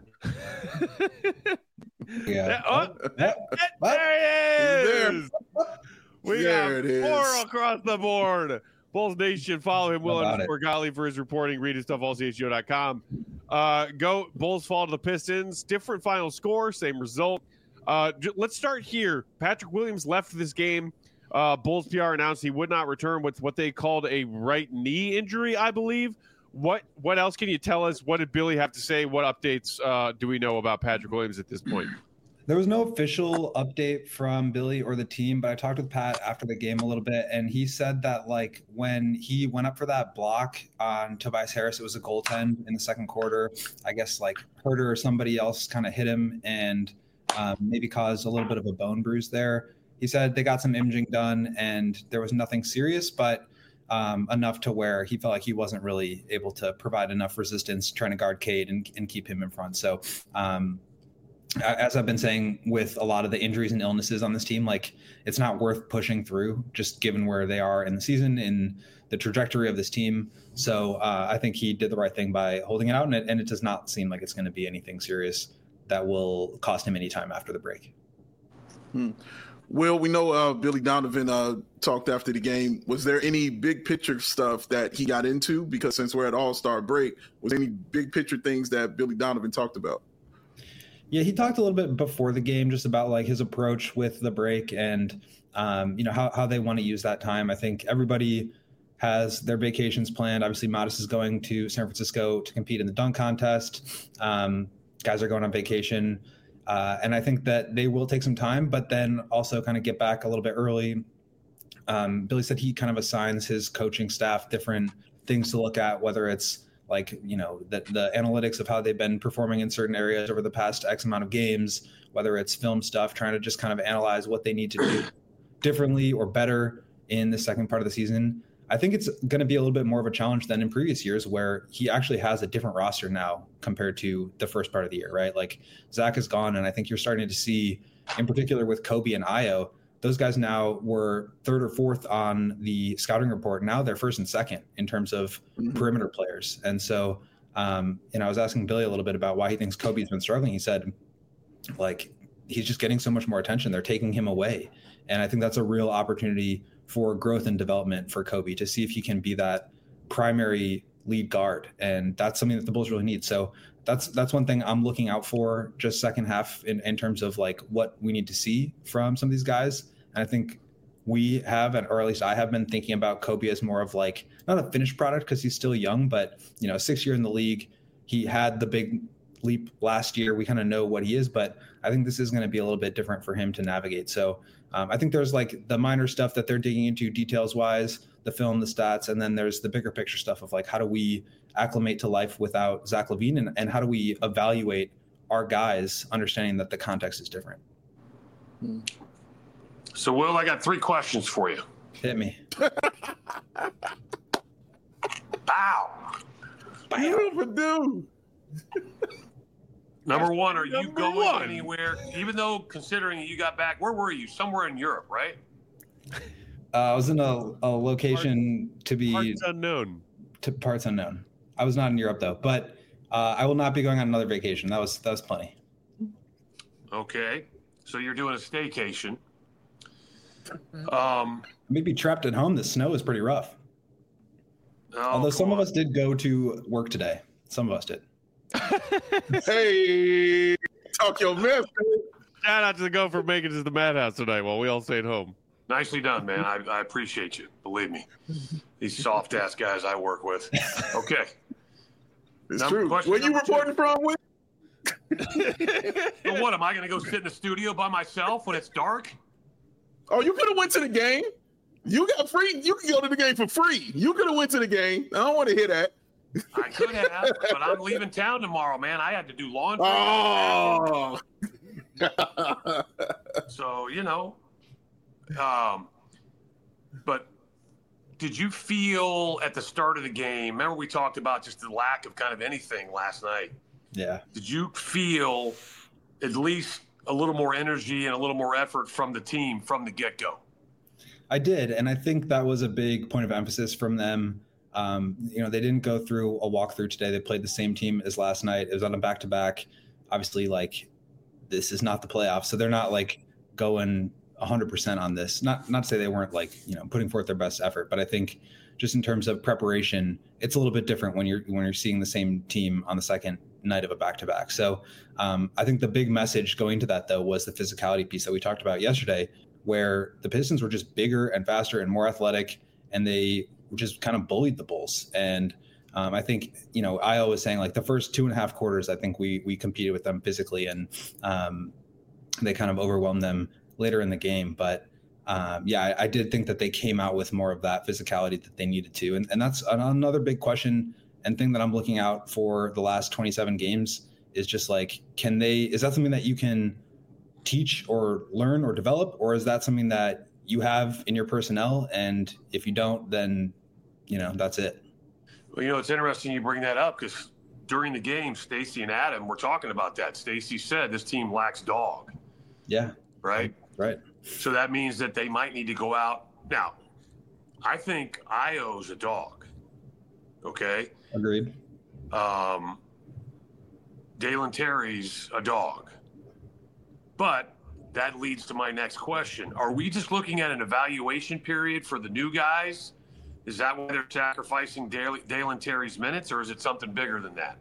Yeah. Oh, that, there he is. We There got it four is. across the board. Bulls Nation, follow him, Will How about underscore Gottlieb, for his reporting. Read his stuff, all C H G O dot com. Uh, go Bulls fall to the Pistons. Different final score, same result. Uh, j- let's start here. Patrick Williams left this game. Uh, Bulls P R announced he would not return with what they called a right knee injury, I believe. What what else can you tell us? What did Billy have to say? What updates uh, do we know about Patrick Williams at this point? There was no official update from Billy or the team, but I talked with Pat after the game a little bit, and he said that like when he went up for that block on Tobias Harris, it was a goaltend in the second quarter. I guess like Herter or somebody else kind of hit him and um, maybe caused a little bit of a bone bruise there. He said they got some imaging done and there was nothing serious, but um, enough to where he felt like he wasn't really able to provide enough resistance trying to guard Cade and, and keep him in front. So um, as I've been saying with a lot of the injuries and illnesses on this team, like it's not worth pushing through just given where they are in the season, in the trajectory of this team. So uh, I think he did the right thing by holding it out, and it, and it does not seem like it's going to be anything serious that will cost him any time after the break. Hmm. Well, we know uh, Billy Donovan uh, talked after the game. Was there any big picture stuff that he got into? Because since we're at All-Star break, was there any big picture things that Billy Donovan talked about? Yeah, he talked a little bit before the game just about like his approach with the break and, um, you know, how, how they want to use that time. I think everybody has their vacations planned. Obviously, Modest is going to San Francisco to compete in the dunk contest. Um, guys are going on vacation. Uh, and I think that they will take some time, but then also kind of get back a little bit early. Um, Billy said he kind of assigns his coaching staff different things to look at, whether it's like, you know, the, the analytics of how they've been performing in certain areas over the past X amount of games, whether it's film stuff, trying to just kind of analyze what they need to do differently or better in the second part of the season. I think it's going to be a little bit more of a challenge than in previous years where he actually has a different roster now compared to the first part of the year, right? Like Zach is gone. And I think you're starting to see, in particular with Kobe and Ayo, those guys now were third or fourth on the scouting report. Now they're first and second in terms of mm-hmm. perimeter players. And so, um, and I was asking Billy a little bit about why he thinks Kobe's been struggling. He said, like, he's just getting so much more attention. They're taking him away. And I think that's a real opportunity for growth and development for Kobe to see if he can be that primary lead guard. And that's something that the Bulls really need. So that's that's one thing I'm looking out for just second half in, in terms of like what we need to see from some of these guys. And I think we have, or at least I have been thinking about Kobe as more of like, not a finished product because he's still young, but, you know, six year in the league, he had the big leap last year. We kind of know what he is, but I think this is going to be a little bit different for him to navigate. So um, I think there's like the minor stuff that they're digging into details wise, the film, the stats, and then there's the bigger picture stuff of like, how do we acclimate to life without Zach LaVine, and, and how do we evaluate our guys, understanding that the context is different. So, Will, I got three questions for you. Hit me. Bow. Beautiful dude. Number one, are you Number going one. anywhere? Even though considering you got back, where were you? Somewhere in Europe, right? Uh, I was in a, a location Part, to be parts unknown. To parts unknown. I was not in Europe though, but uh, I will not be going on another vacation. That was that was plenty. Okay, so you're doing a staycation. Um, Maybe trapped at home. The snow is pretty rough. oh, Although some come of on. us did go to work today. Some of us did. Hey, talk your mess. Shout out to the Gopher making it to the madhouse tonight while we all stayed home. Nicely done, man. I, I appreciate you. Believe me, these soft ass guys I work with. Okay. It's Number- true. question Where you number two. reporting from? With? So what? Am I going to go sit in the studio by myself when it's dark? Oh, you could have went to the game. You got free. You can go to the game for free. You could have went to the game. I don't want to hear that. I could have, but I'm leaving town tomorrow, man. I had to do laundry. Oh. So, you know, um, but did you feel at the start of the game, remember we talked about just the lack of kind of anything last night. Yeah. Did you feel at least a little more energy and a little more effort from the team from the get-go? I did. And I think that was a big point of emphasis from them. Um, you know, they didn't go through a walkthrough today. They played the same team as last night. It was on a back-to-back. Obviously, like, this is not the playoffs. So they're not, like, going one hundred percent on this. Not not to say they weren't, like, you know, putting forth their best effort. But I think just in terms of preparation, it's a little bit different when you're when you're seeing the same team on the second night of a back-to-back. So um, I think the big message going to that, though, was the physicality piece that we talked about yesterday, where the Pistons were just bigger and faster and more athletic, and they just kind of bullied the Bulls. And um, I think, you know, Ayo was saying like the first two and a half quarters, I think we we competed with them physically, and um, they kind of overwhelmed them later in the game. But um, yeah, I, I did think that they came out with more of that physicality that they needed to. And, and that's another big question and thing that I'm looking out for the last twenty-seven games is just like, can they, is that something that you can teach or learn or develop, or is that something that you have in your personnel? And if you don't, then you know, that's it. Well, you know, it's interesting you bring that up because during the game, Stacey and Adam were talking about that. Stacey said this team lacks dog. Yeah. Right? Right. So that means that they might need to go out. Now, I think Ayo's a dog. Okay? Agreed. Um, Dalen Terry's a dog. But that leads to my next question. Are we just looking at an evaluation period for the new guys? Is that why they're sacrificing Dale, Dalen Terry's minutes, or is it something bigger than that?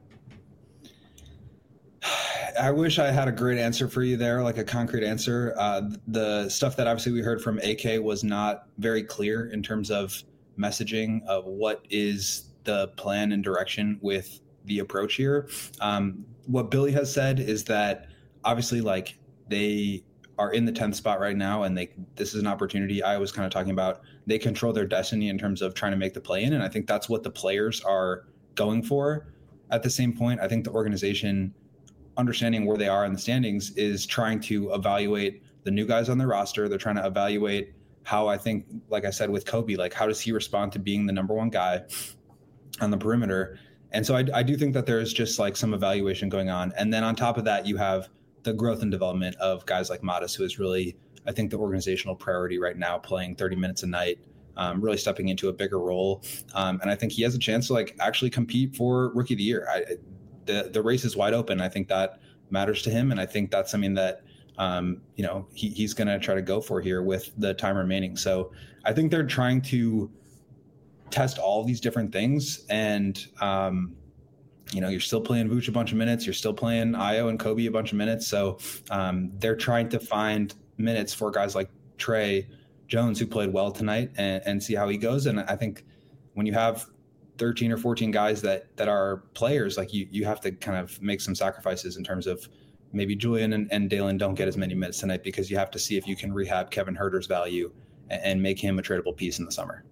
I wish I had a great answer for you there, like a concrete answer. Uh, the stuff that obviously we heard from A K was not very clear in terms of messaging of what is the plan and direction with the approach here. Um, what Billy has said is that obviously like they are in the tenth spot right now, and they this is an opportunity. I was kind of talking about they control their destiny in terms of trying to make the play in, and I think that's what the players are going for. At the same point, I think the organization, understanding where they are in the standings, is trying to evaluate the new guys on their roster. They're trying to evaluate how, I think, like I said with Kobe, like how does he respond to being the number one guy on the perimeter? And so I, I do think that there's just like some evaluation going on. And then on top of that, you have the growth and development of guys like Modest, who is really, I think, the organizational priority right now, playing thirty minutes a night, um, really stepping into a bigger role. Um, and I think he has a chance to like actually compete for Rookie of the Year. I, the the race is wide open. I think that matters to him. And I think that's something that, um, you know, he, he's going to try to go for here with the time remaining. So I think they're trying to test all these different things. And, um, you know, you're still playing Vooch a bunch of minutes. You're still playing Ayo and Kobe a bunch of minutes. So um, they're trying to find minutes for guys like Trey Jones, who played well tonight, and, and see how he goes. And I think when you have thirteen or fourteen guys that that are players, like you, you have to kind of make some sacrifices in terms of maybe Julian and, and Dalen don't get as many minutes tonight, because you have to see if you can rehab Kevin Huerter's value and, and make him a tradable piece in the summer.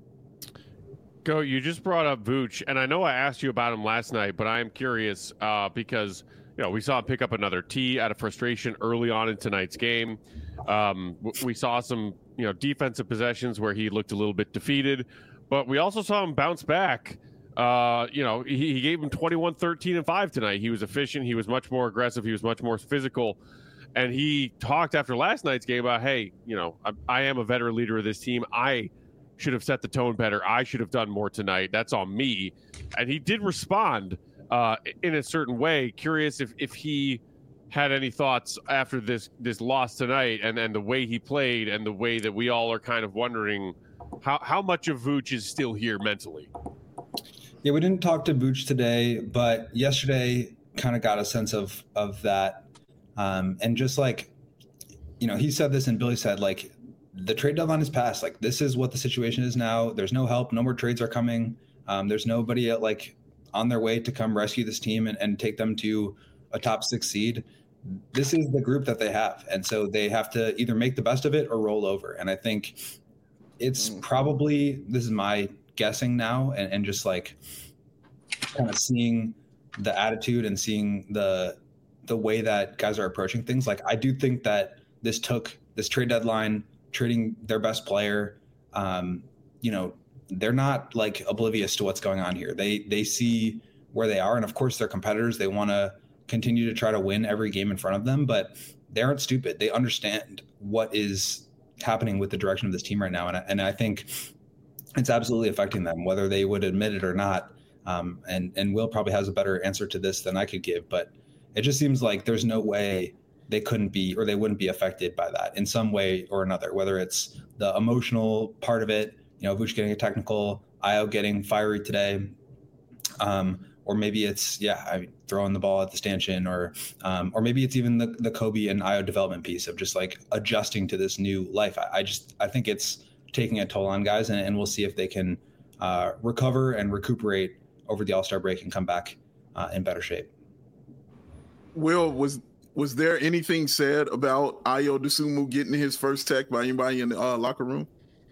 Go, you just brought up Vooch, and I know I asked you about him last night, but I am curious uh, because, you know, we saw him pick up another tee out of frustration early on in tonight's game. Um, we saw some, you know, defensive possessions where he looked a little bit defeated, but we also saw him bounce back. Uh, you know, he, he gave him twenty-one, thirteen, and five tonight. He was efficient. He was much more aggressive. He was much more physical. And he talked after last night's game about, hey, you know, I, I am a veteran leader of this team. I should have set the tone better. I should have done more tonight. That's on me. And he did respond uh, in a certain way. Curious if, if he had any thoughts after this this loss tonight, and, and the way he played, and the way that we all are kind of wondering how, how much of Vooch is still here mentally. Yeah, we didn't talk to Vooch today, but yesterday kind of got a sense of of that. Um, and just like, you know, he said this and Billy said, like, the trade deadline is passed. Like, this is what the situation is now. There's no help. No more trades are coming. Um, there's nobody at, like, on their way to come rescue this team and, and take them to a top six seed. This is the group that they have. And so they have to either make the best of it or roll over. And I think it's probably, this is my guessing now, and, and just like kind of seeing the attitude and seeing the the way that guys are approaching things. Like, I do think that this took this trade deadline, trading their best player. Um, you know, they're not like oblivious to what's going on here. They they see where they are, and of course they're competitors. They want to continue to try to win every game in front of them, but they aren't stupid. They understand what is happening with the direction of this team right now, and I, and I think it's absolutely affecting them, whether they would admit it or not. Um, and and Will probably has a better answer to this than I could give, but it just seems like there's no way they couldn't be, or they wouldn't be affected by that in some way or another, whether it's the emotional part of it, you know, Vooch getting a technical, Ayo getting fiery today, um, or maybe it's, yeah, I mean, throwing the ball at the stanchion, or um, or maybe it's even the, the Kobe and Ayo development piece of just like adjusting to this new life. I, I just, I think it's taking a toll on guys, and, and we'll see if they can uh, recover and recuperate over the All-Star break and come back uh, in better shape. Will, was was there anything said about Ayo Dosunmu getting his first tech by anybody in the uh, locker room?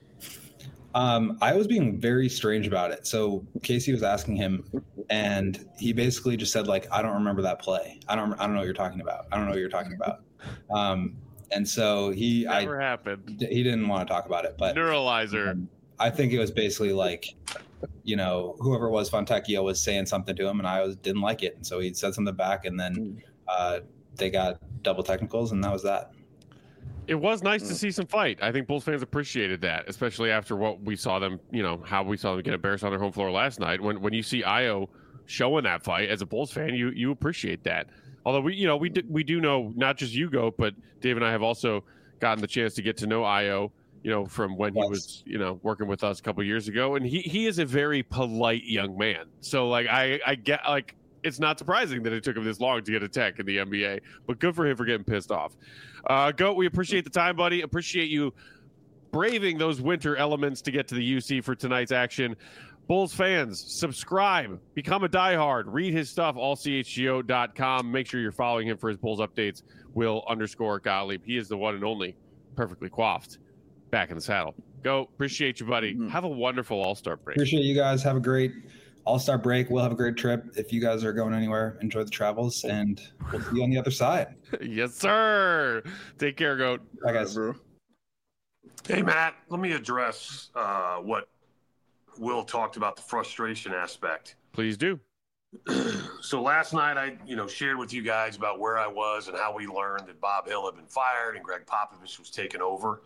Um, I was being very strange about it. So Casey was asking him, and he basically just said, like, I don't remember that play. I don't I don't know what you're talking about. I don't know what you're talking about. Um, and so he Never I, happened. He didn't want to talk about it. But Neuralizer. Um, I think it was basically like, you know, whoever it was, Fontecchio was saying something to him, and I was, didn't like it. And so he said something back, and then uh, they got double technicals, and that was that. It was nice to see some fight. I think Bulls fans appreciated that, especially after what we saw them, you know, how we saw them get embarrassed on their home floor last night. When when you see Ayo showing that fight as a Bulls fan, you you appreciate that. Although we, you know, we do, we do know, not just you, Go, but Dave and I have also gotten the chance to get to know Ayo, you know, from when he was, you know, working with us a couple of years ago, and he he is a very polite young man. So like I I get like. It's not surprising that it took him this long to get a tech in the N B A, but good for him for getting pissed off. Uh, Goat, we appreciate the time, buddy. Appreciate you braving those winter elements to get to the U C for tonight's action. Bulls fans, subscribe, become a diehard, read his stuff, all C H G O dot com. Make sure you're following him for his Bulls updates. Will underscore Gottlieb. He is the one and only perfectly coiffed back in the saddle. Go, appreciate you, buddy. Mm-hmm. Have a wonderful All-Star break. Appreciate you guys. Have a great All-Star break. We'll have a great trip. If you guys are going anywhere, enjoy the travels, and we'll see you on the other side. Yes, sir. Take care, Goat. Bye, guys. Bro. Hey, Matt, let me address uh, what Will talked about, the frustration aspect. Please do. So last night I, you know, shared with you guys about where I was and how we learned that Bob Hill had been fired and Greg Popovich was taken over.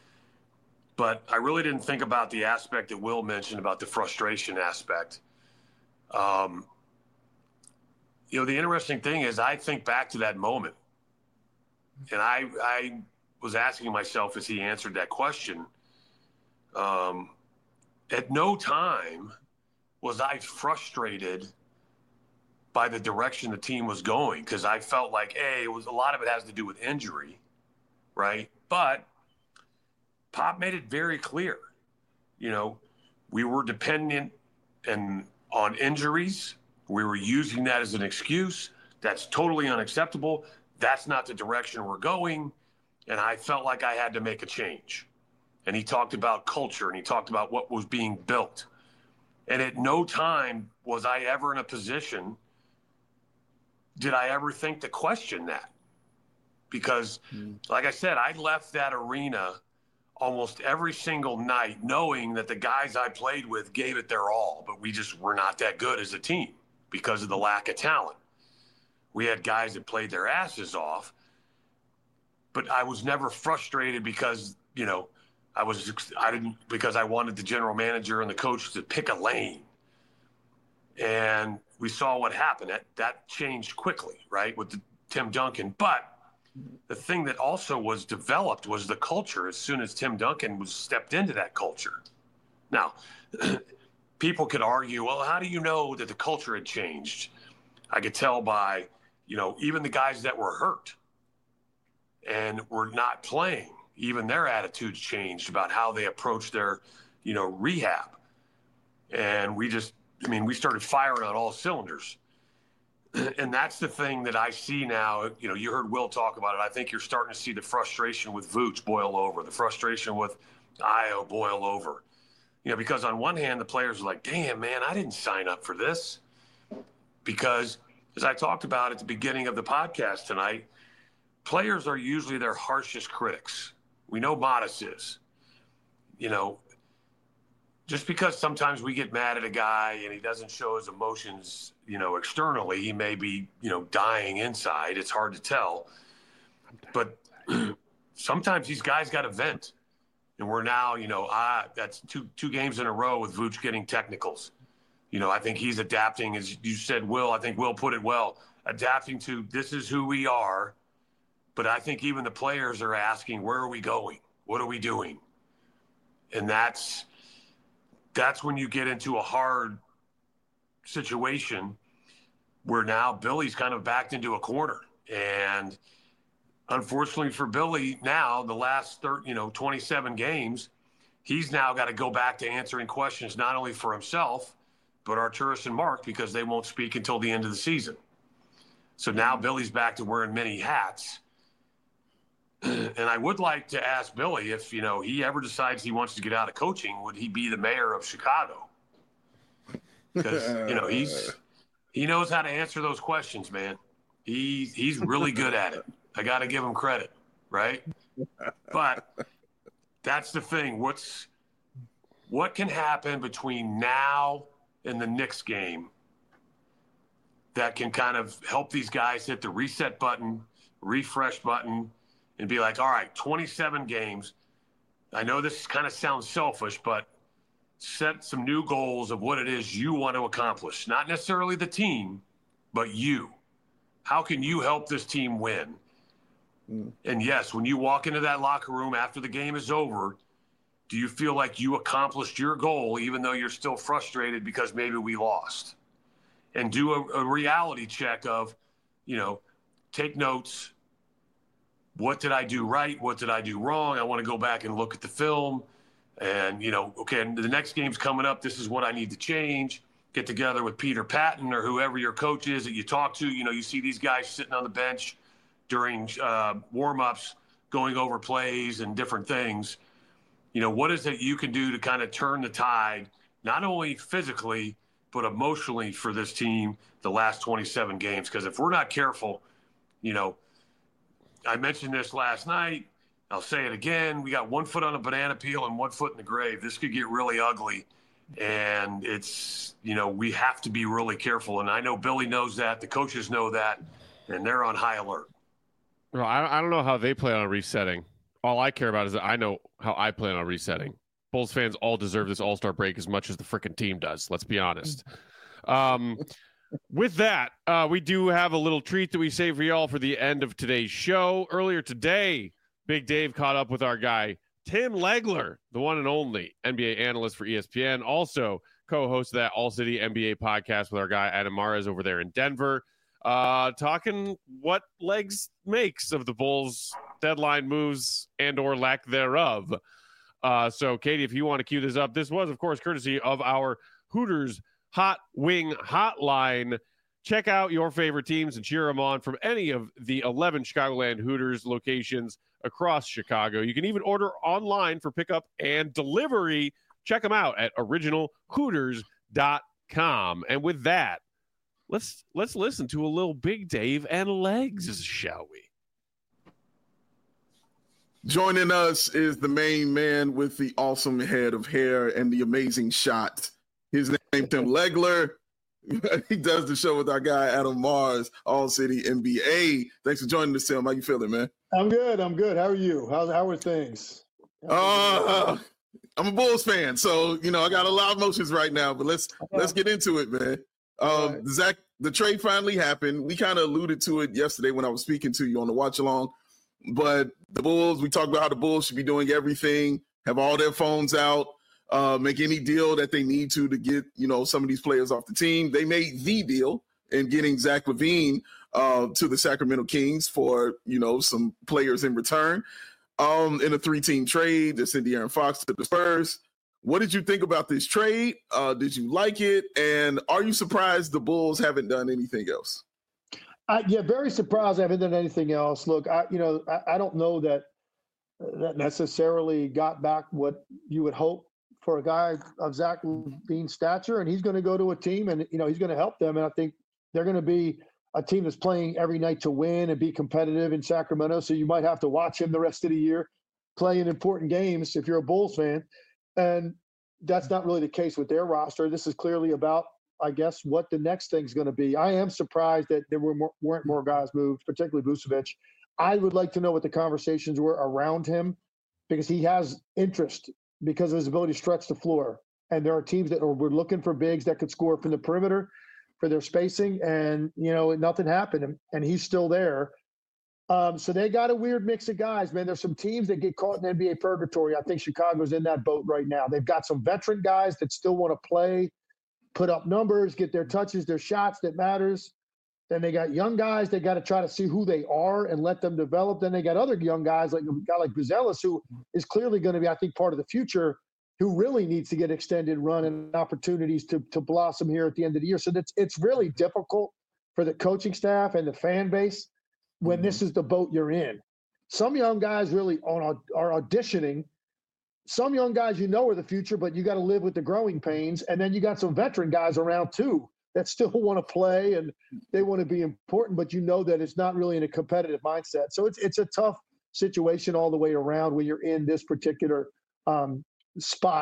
But I really didn't think about the aspect that Will mentioned about the frustration aspect. Um, you know, the interesting thing is I think back to that moment, and I I was asking myself as he answered that question, um, at no time was I frustrated by the direction the team was going, because I felt like, hey, it was a lot of it has to do with injury, right? But Pop made it very clear, you know, we were dependent and on injuries. We were using that as an excuse. That's totally unacceptable. That's not the direction we're going. And I felt like I had to make a change. And he talked about culture, and he talked about what was being built. And at no time was I ever in a position, did I ever think to question that? Because, mm. like I said, I left that arena almost every single night knowing that the guys I played with gave it their all, but we just were not that good as a team because of the lack of talent. We had guys that played their asses off, but I was never frustrated because, you know, I was, I didn't, because I wanted the general manager and the coach to pick a lane. And we saw what happened. That, that changed quickly, right, with the, Tim Duncan. But the thing that also was developed was the culture as soon as Tim Duncan was stepped into that culture. Now, people could argue, well, how do you know that the culture had changed? I could tell by, you know, even the guys that were hurt and were not playing, even their attitudes changed about how they approached their, you know, rehab. And we just, I mean, we started firing on all cylinders. And that's the thing that I see now. You know, you heard Will talk about it. I think you're starting to see the frustration with Vooch boil over, the frustration with Ayo boil over. You know, because on one hand, the players are like, damn, man, I didn't sign up for this. Because as I talked about at the beginning of the podcast tonight, players are usually their harshest critics. We know Modest is. You know, just because sometimes we get mad at a guy and he doesn't show his emotions, you know, externally, he may be, you know, dying inside. It's hard to tell. But sometimes these guys got to vent. And we're now, you know, ah, that's two two games in a row with Vooch getting technicals. You know, I think he's adapting, as you said, Will. I think Will put it well, adapting to this is who we are. But I think even the players are asking, where are we going? What are we doing? And that's that's when you get into a hard situation where now Billy's kind of backed into a corner. And unfortunately for Billy, now the last thirty, you know, twenty-seven games, he's now got to go back to answering questions not only for himself, but Arturas and Mark, because they won't speak until the end of the season. So now Billy's back to wearing many hats. And I would like to ask Billy if, you know, he ever decides he wants to get out of coaching, would he be the mayor of Chicago? Because, you know, he's he knows how to answer those questions, man. He, he's really good at it. I got to give him credit, right? But that's the thing. What's what can happen between now and the Knicks game that can kind of help these guys hit the reset button, refresh button, and be like, all right, twenty-seven games. I know this kind of sounds selfish, but set some new goals of what it is you want to accomplish. Not necessarily the team, but you. How can you help this team win? Mm. And yes, when you walk into that locker room after the game is over, do you feel like you accomplished your goal even though you're still frustrated because maybe we lost? And do a, a reality check of, you know, take notes. What did I do right? What did I do wrong? I want to go back and look at the film and, you know, okay, the next game's coming up. This is what I need to change. Get together with Peter Patton or whoever your coach is that you talk to. You know, you see these guys sitting on the bench during uh, warm-ups, going over plays and different things. You know, what is it you can do to kind of turn the tide, not only physically, but emotionally for this team the last twenty-seven games? Because if we're not careful, you know, I mentioned this last night. I'll say it again. We got one foot on a banana peel and one foot in the grave. This could get really ugly. And it's, you know, we have to be really careful. And I know Billy knows that. The coaches know that. And they're on high alert. Well, I, I don't know how they plan on resetting. All I care about is that I know how I plan on resetting. Bulls fans all deserve this all-star break as much as the freaking team does. Let's be honest. Um, with that, uh, we do have a little treat that we saved for y'all for the end of today's show. Earlier today, Big Dave caught up with our guy, Tim Legler, the one and only N B A analyst for E S P N. Also co-host of that All-City N B A podcast with our guy, Adam Mares, over there in Denver. Uh, talking what legs makes of the Bulls' deadline moves and or lack thereof. Uh, so, Katie, if you want to cue this up, this was, of course, courtesy of our Hooters Hot Wing Hotline. Check out your favorite teams and cheer them on from any of the eleven Chicagoland Hooters locations across Chicago. You can even order online for pickup and delivery. Check them out at original hooters dot com. And with that, let's let's listen to a little Big Dave and Legs, shall we? Joining us is the main man with the awesome head of hair and the amazing shot. His name Tim Legler. He does the show with our guy Adam Mares, All City N B A. Thanks for joining us, Tim. How you feeling, man? I'm good. I'm good. How are you? How how are things? Uh, I'm a Bulls fan, so you know I got a lot of emotions right now. But let's yeah. let's get into it, man. Um, right. Zach, the trade finally happened. We kind of alluded to it yesterday when I was speaking to you on the watch along. But the Bulls, we talked about how the Bulls should be doing everything, have all their phones out, uh, make any deal that they need to to get, you know, some of these players off the team. They made the deal in getting Zach LaVine uh, to the Sacramento Kings for, you know, some players in return um, in a three-team trade. They sent De'Aaron Fox to the Spurs. What did you think about this trade? Uh, did you like it? And are you surprised the Bulls haven't done anything else? I, yeah, very surprised I haven't done anything else. Look, I, you know, I, I don't know that that necessarily got back what you would hope for a guy of Zach LaVine's stature, and he's going to go to a team, and you know, he's going to help them. And I think they're going to be a team that's playing every night to win and be competitive in Sacramento. So you might have to watch him the rest of the year playing important games if you're a Bulls fan. And that's not really the case with their roster. This is clearly about, I guess, what the next thing's going to be. I am surprised that there were more, weren't more guys moved, particularly Vucevic. I would like to know what the conversations were around him because he has interest because of his ability to stretch the floor. And there are teams that are, were looking for bigs that could score from the perimeter for their spacing. And, you know, nothing happened. And, and he's still there. Um, so they got a weird mix of guys, man. There's some teams that get caught in N B A purgatory. I think Chicago's in that boat right now. They've got some veteran guys that still want to play, put up numbers, get their touches, their shots that matters. Then they got young guys. They got to try to see who they are and let them develop. Then they got other young guys like a guy like Buzelis, who is clearly going to be, I think, part of the future, who really needs to get extended run and opportunities to, to blossom here at the end of the year. So that's, it's really difficult for the coaching staff and the fan base when mm-hmm. this is the boat you're in. Some young guys really are, are auditioning. Some young guys, you know, are the future, but you got to live with the growing pains. And then you got some veteran guys around too that still want to play and they want to be important, but you know that it's not really in a competitive mindset. So it's it's a tough situation all the way around when you're in this particular um, spot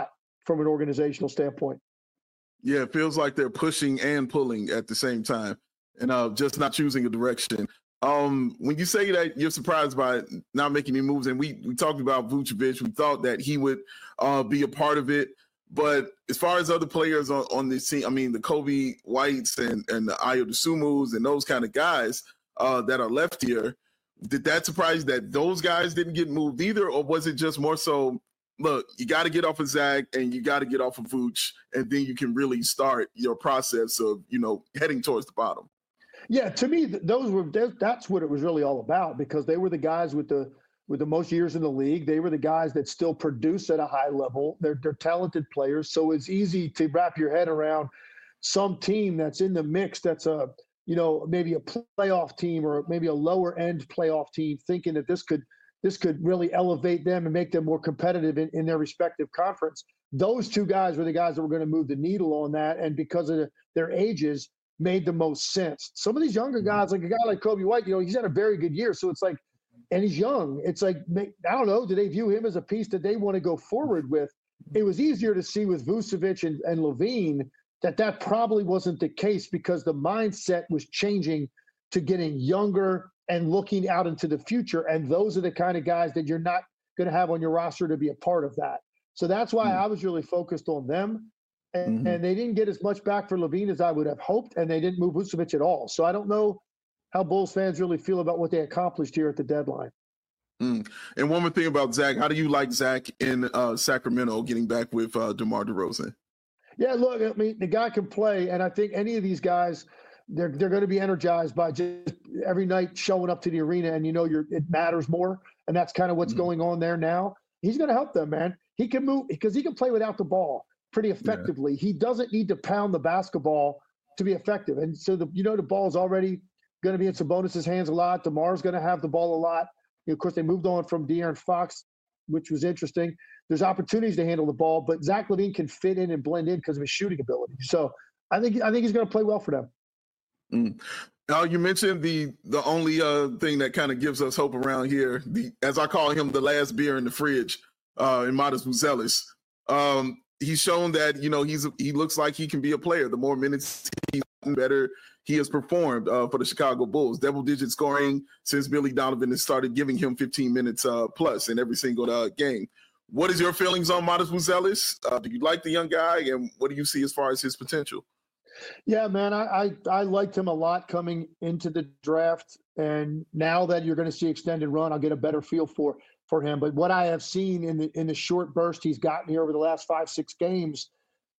from an organizational standpoint. Yeah, it feels like they're pushing and pulling at the same time, and uh, just not choosing a direction. Um, when you say that you're surprised by not making any moves, and we we talked about Vucevic, we thought that he would uh, be a part of it. But as far as other players on, on this team, I mean, the Kobe Whites and, and the Ayo Dosunmus and those kind of guys uh, that are left here, did that surprise that those guys didn't get moved either? Or was it just more so, look, you got to get off of Zach and you got to get off of Vooch, and then you can really start your process of, you know, heading towards the bottom? Yeah, to me, those were that's what it was really all about, because they were the guys with the with the most years in the league. They were the guys that still produce at a high level. They're they're talented players, so it's easy to wrap your head around some team that's in the mix. That's a you know maybe a playoff team or maybe a lower end playoff team, thinking that this could this could really elevate them and make them more competitive in, in their respective conference. Those two guys were the guys that were going to move the needle on that, and because of the, their ages, made the most sense. Some of these younger guys, like a guy like Kobe White, you know, he's had a very good year. So it's like, and he's young. It's like, I don't know, do they view him as a piece that they want to go forward with? It was easier to see with Vucevic and, and LaVine that that probably wasn't the case, because the mindset was changing to getting younger and looking out into the future. And those are the kind of guys that you're not going to have on your roster to be a part of that. So that's why mm-hmm. I was really focused on them. And, mm-hmm. and they didn't get as much back for LaVine as I would have hoped, and they didn't move Vucevic at all. So I don't know how Bulls fans really feel about what they accomplished here at the deadline. Mm. And one more thing about Zach, how do you like Zach in uh, Sacramento getting back with uh, DeMar DeRozan? Yeah, look, I mean, the guy can play, and I think any of these guys, they're they're going to be energized by just every night showing up to the arena, and you know you're it matters more, and that's kind of what's mm-hmm. going on there now. He's going to help them, man. He can move because he can play without the ball pretty effectively. Yeah. He doesn't need to pound the basketball to be effective. And so, the you know, the ball is already going to be in Sabonis' hands a lot. DeMar's going to have the ball a lot. You know, of course, they moved on from De'Aaron Fox, which was interesting. There's opportunities to handle the ball, but Zach LaVine can fit in and blend in because of his shooting ability. So I think I think he's going to play well for them. Mm. Now, you mentioned the the only uh, thing that kind of gives us hope around here, the as I call him, the last beer in the fridge, uh, in Matas Buzelis. Um, He's shown that, you know, he's he looks like he can be a player. The more minutes he's gotten, better he has performed uh, for the Chicago Bulls. Double-digit scoring since Billy Donovan has started giving him fifteen minutes uh, plus in every single uh, game. What is your feelings on Matas Buzelis? Uh, do you like the young guy, and what do you see as far as his potential? Yeah, man, I, I I liked him a lot coming into the draft, and now that you're going to see extended run, I'll get a better feel for. for him. But what I have seen in the in the short burst he's gotten here over the last five, six games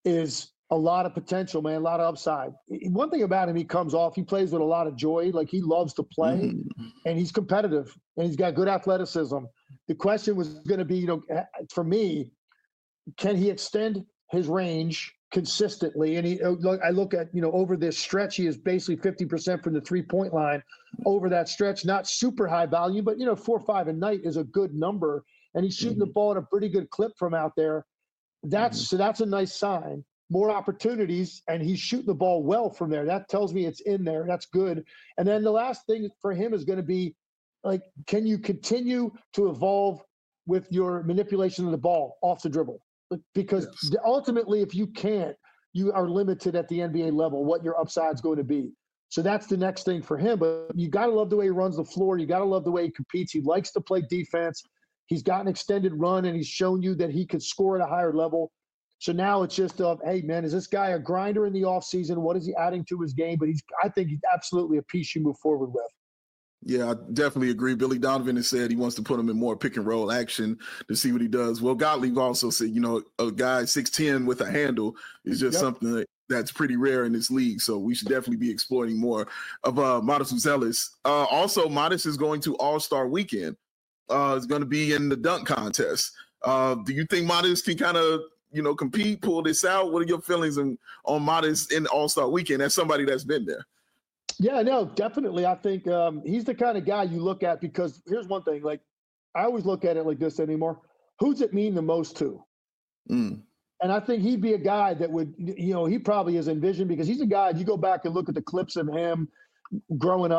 is a lot of potential, man, a lot of upside. One thing about him, he comes off, he plays with a lot of joy. Like, he loves to play, mm-hmm. and he's competitive, and he's got good athleticism. The question was going to be, you know, for me, can he extend his range consistently? And he, I look at, you know, over this stretch, he is basically fifty percent from the three-point line over that stretch. Not super high value, but, you know, four or five a night is a good number. And he's shooting mm-hmm. the ball at a pretty good clip from out there. That's mm-hmm. so that's a nice sign. More opportunities, and he's shooting the ball well from there. That tells me it's in there. That's good. And then the last thing for him is going to be, like, can you continue to evolve with your manipulation of the ball off the dribble? Because yes. ultimately, if you can't, you are limited at the N B A level, what your upside's going to be. So that's the next thing for him. But you got to love the way he runs the floor. You got to love the way he competes. He likes to play defense. He's got an extended run, and he's shown you that he could score at a higher level. So now it's just, uh, hey, man, is this guy a grinder in the offseason? What is he adding to his game? But he's, I think he's absolutely a piece you move forward with. Yeah, I definitely agree. Billy Donovan has said he wants to put him in more pick and roll action to see what he does. Well, Gottlieb also said, you know, a guy six ten with a handle is just yep. something that, that's pretty rare in this league. So we should definitely be exploiting more of uh, Matas Buzelis. Uh, also, Matas is going to All-Star Weekend. Uh, it's going to be in the dunk contest. Uh, do you think Matas can kind of, you know, compete, pull this out? What are your feelings on, on Matas in All-Star Weekend as somebody that's been there? Yeah, no, definitely. I think um, he's the kind of guy you look at, because here's one thing. Like, I always look at it like this anymore. Who's it mean the most to? Mm. And I think he'd be a guy that would, you know, he probably is envisioned, because he's a guy, you go back and look at the clips of him growing up,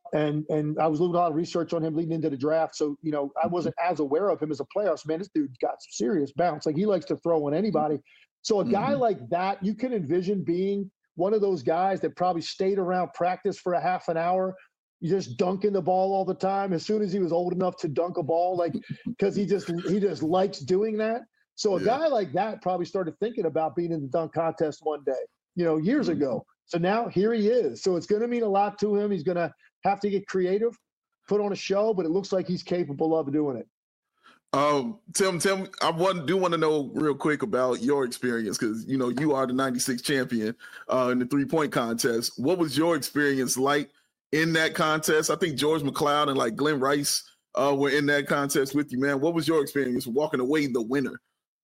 and and I was doing a lot of research on him leading into the draft. So, you know, I wasn't as aware of him as a player. So, man, this dude got some serious bounce. Like, he likes to throw on anybody. So a guy Mhm. like that, you can envision being one of those guys that probably stayed around practice for a half an hour, you just dunking the ball all the time. As soon as he was old enough to dunk a ball, like, because he just he just likes doing that. So a Yeah. guy like that probably started thinking about being in the dunk contest one day, you know, years Mhm. ago. So now here he is. So it's going to mean a lot to him. He's going to have to get creative, put on a show, but it looks like he's capable of doing it. Um, Tim, Tim, I want, do want to know real quick about your experience because you know you are the ninety-six champion uh, in the three-point contest. What was your experience like in that contest? I think George McLeod and like Glenn Rice uh, were in that contest with you, man. What was your experience walking away the winner?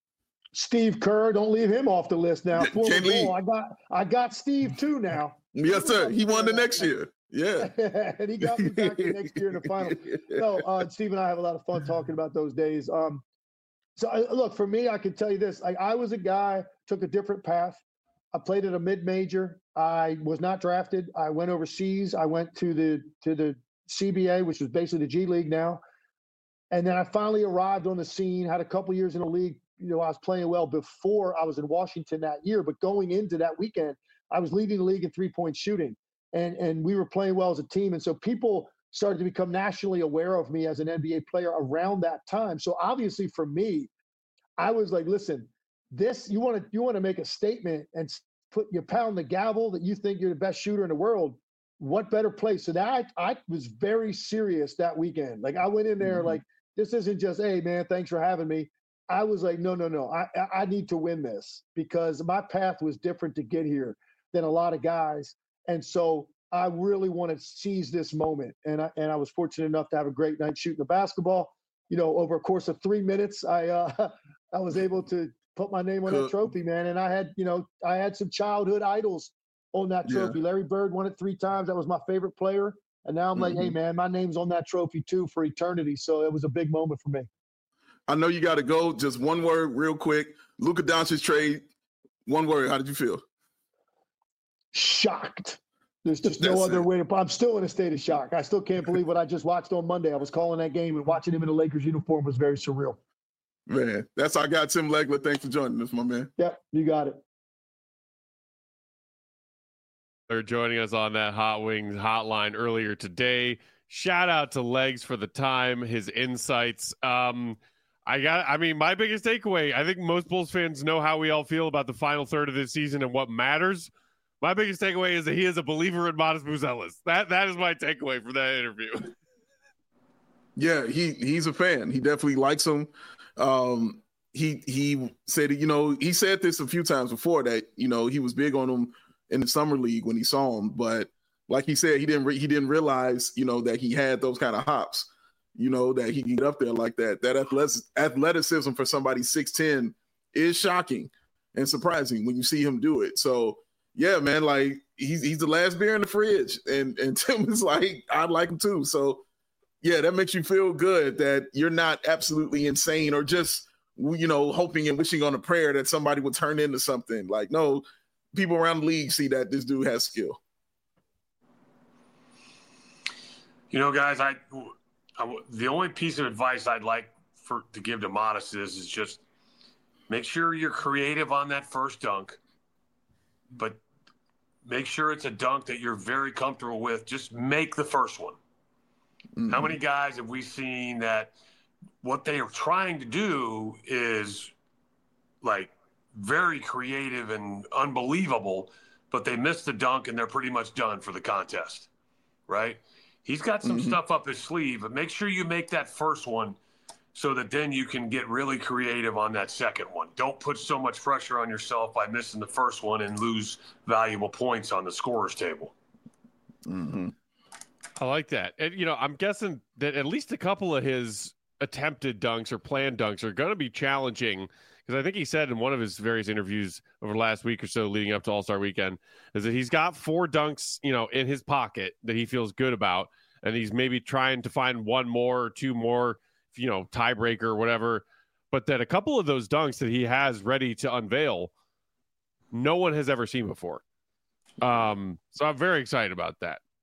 Steve Kerr, don't leave him off the list now. Yeah, Full can't of bull. leave. I got I got Steve too now. Yes, sir. He won the next year. Yeah. And he got me back the next year in the final. No, uh, Steve and I have a lot of fun talking about those days. Um, so I, look, for me, I can tell you this: like, I was a guy, took a different path. I played at a mid-major. I was not drafted. I went overseas. I went to the to the C B A, which was basically the G League now. And then I finally arrived on the scene. Had a couple years in the league. You know, I was playing well before I was in Washington that year. But going into that weekend, I was leading the league in three-point shooting. And, and we were playing well as a team. And so people started to become nationally aware of me as an N B A player around that time. So obviously for me, I was like, listen, this, you want to, you want to make a statement and put, you pound the gavel that you think you're the best shooter in the world. What better place? So that I, I was very serious that weekend. Like, I went in there Mhm. like, this isn't just, hey man, thanks for having me. I was like, no, no, no, I, I need to win this because my path was different to get here than a lot of guys. And so I really want to seize this moment. And I, and I was fortunate enough to have a great night shooting the basketball. You know, over a course of three minutes, I uh, I was able to put my name on that Cool. trophy, man. And I had, you know, I had some childhood idols on that Yeah. trophy. Larry Bird won it three times. That was my favorite player. And now I'm like, hey, Mhm. man, my name's on that trophy too for eternity. So it was a big moment for me. I know you got to go. Just one word, real quick. Luka Doncic trade. One word. How did you feel? Shocked. There's just no That's other it. way to. I'm still in a state of shock. I still can't believe what I just watched on Monday. I was calling that game and watching him in a Lakers uniform was very surreal. Man, that's I got Tim Legler. Thanks for joining us, my man. Yep, you got it. They're joining us on that Hot Wings hotline earlier today. Shout out to Legs for the time, his insights. Um, I got, I mean, my biggest takeaway, I think most Bulls fans know how we all feel about the final third of this season and what matters. My biggest takeaway is that he is a believer in Modest Buzelis. That that is my takeaway from that interview. Yeah, he he's a fan. He definitely likes him. Um, he he said, you know, he said this a few times before that, you know, he was big on him in the summer league when he saw him, but like he said, he didn't re- he didn't realize, you know, that he had those kind of hops, you know, that he can get up there like that. That athletic, athleticism for somebody six ten is shocking and surprising when you see him do it. So yeah, man, like he's he's the last beer in the fridge, and and Tim is like, I like him too. So yeah, that makes you feel good that you're not absolutely insane or just, you know, hoping and wishing on a prayer that somebody would turn into something. Like, no, people around the league see that this dude has skill. You know, guys, I, I the only piece of advice I'd like for to give to Modest is is just make sure you're creative on that first dunk, but make sure it's a dunk that you're very comfortable with. Just make the first one. Mm-hmm. How many guys have we seen that what they are trying to do is like very creative and unbelievable, but they miss the dunk and they're pretty much done for the contest, right? He's got some Mm-hmm. stuff up his sleeve, but make sure you make that first one so that then you can get really creative on that second one. Don't put so much pressure on yourself by missing the first one and lose valuable points on the scorer's table. Mm-hmm. I like that. And, you know, I'm guessing that at least a couple of his attempted dunks or planned dunks are going to be challenging because I think he said in one of his various interviews over the last week or so leading up to All-Star Weekend is that he's got four dunks, you know, in his pocket that he feels good about. And he's maybe trying to find one more or two more, you know, tiebreaker or whatever. But that a couple of those dunks that he has ready to unveil, no one has ever seen before. Um, so I'm very excited about that.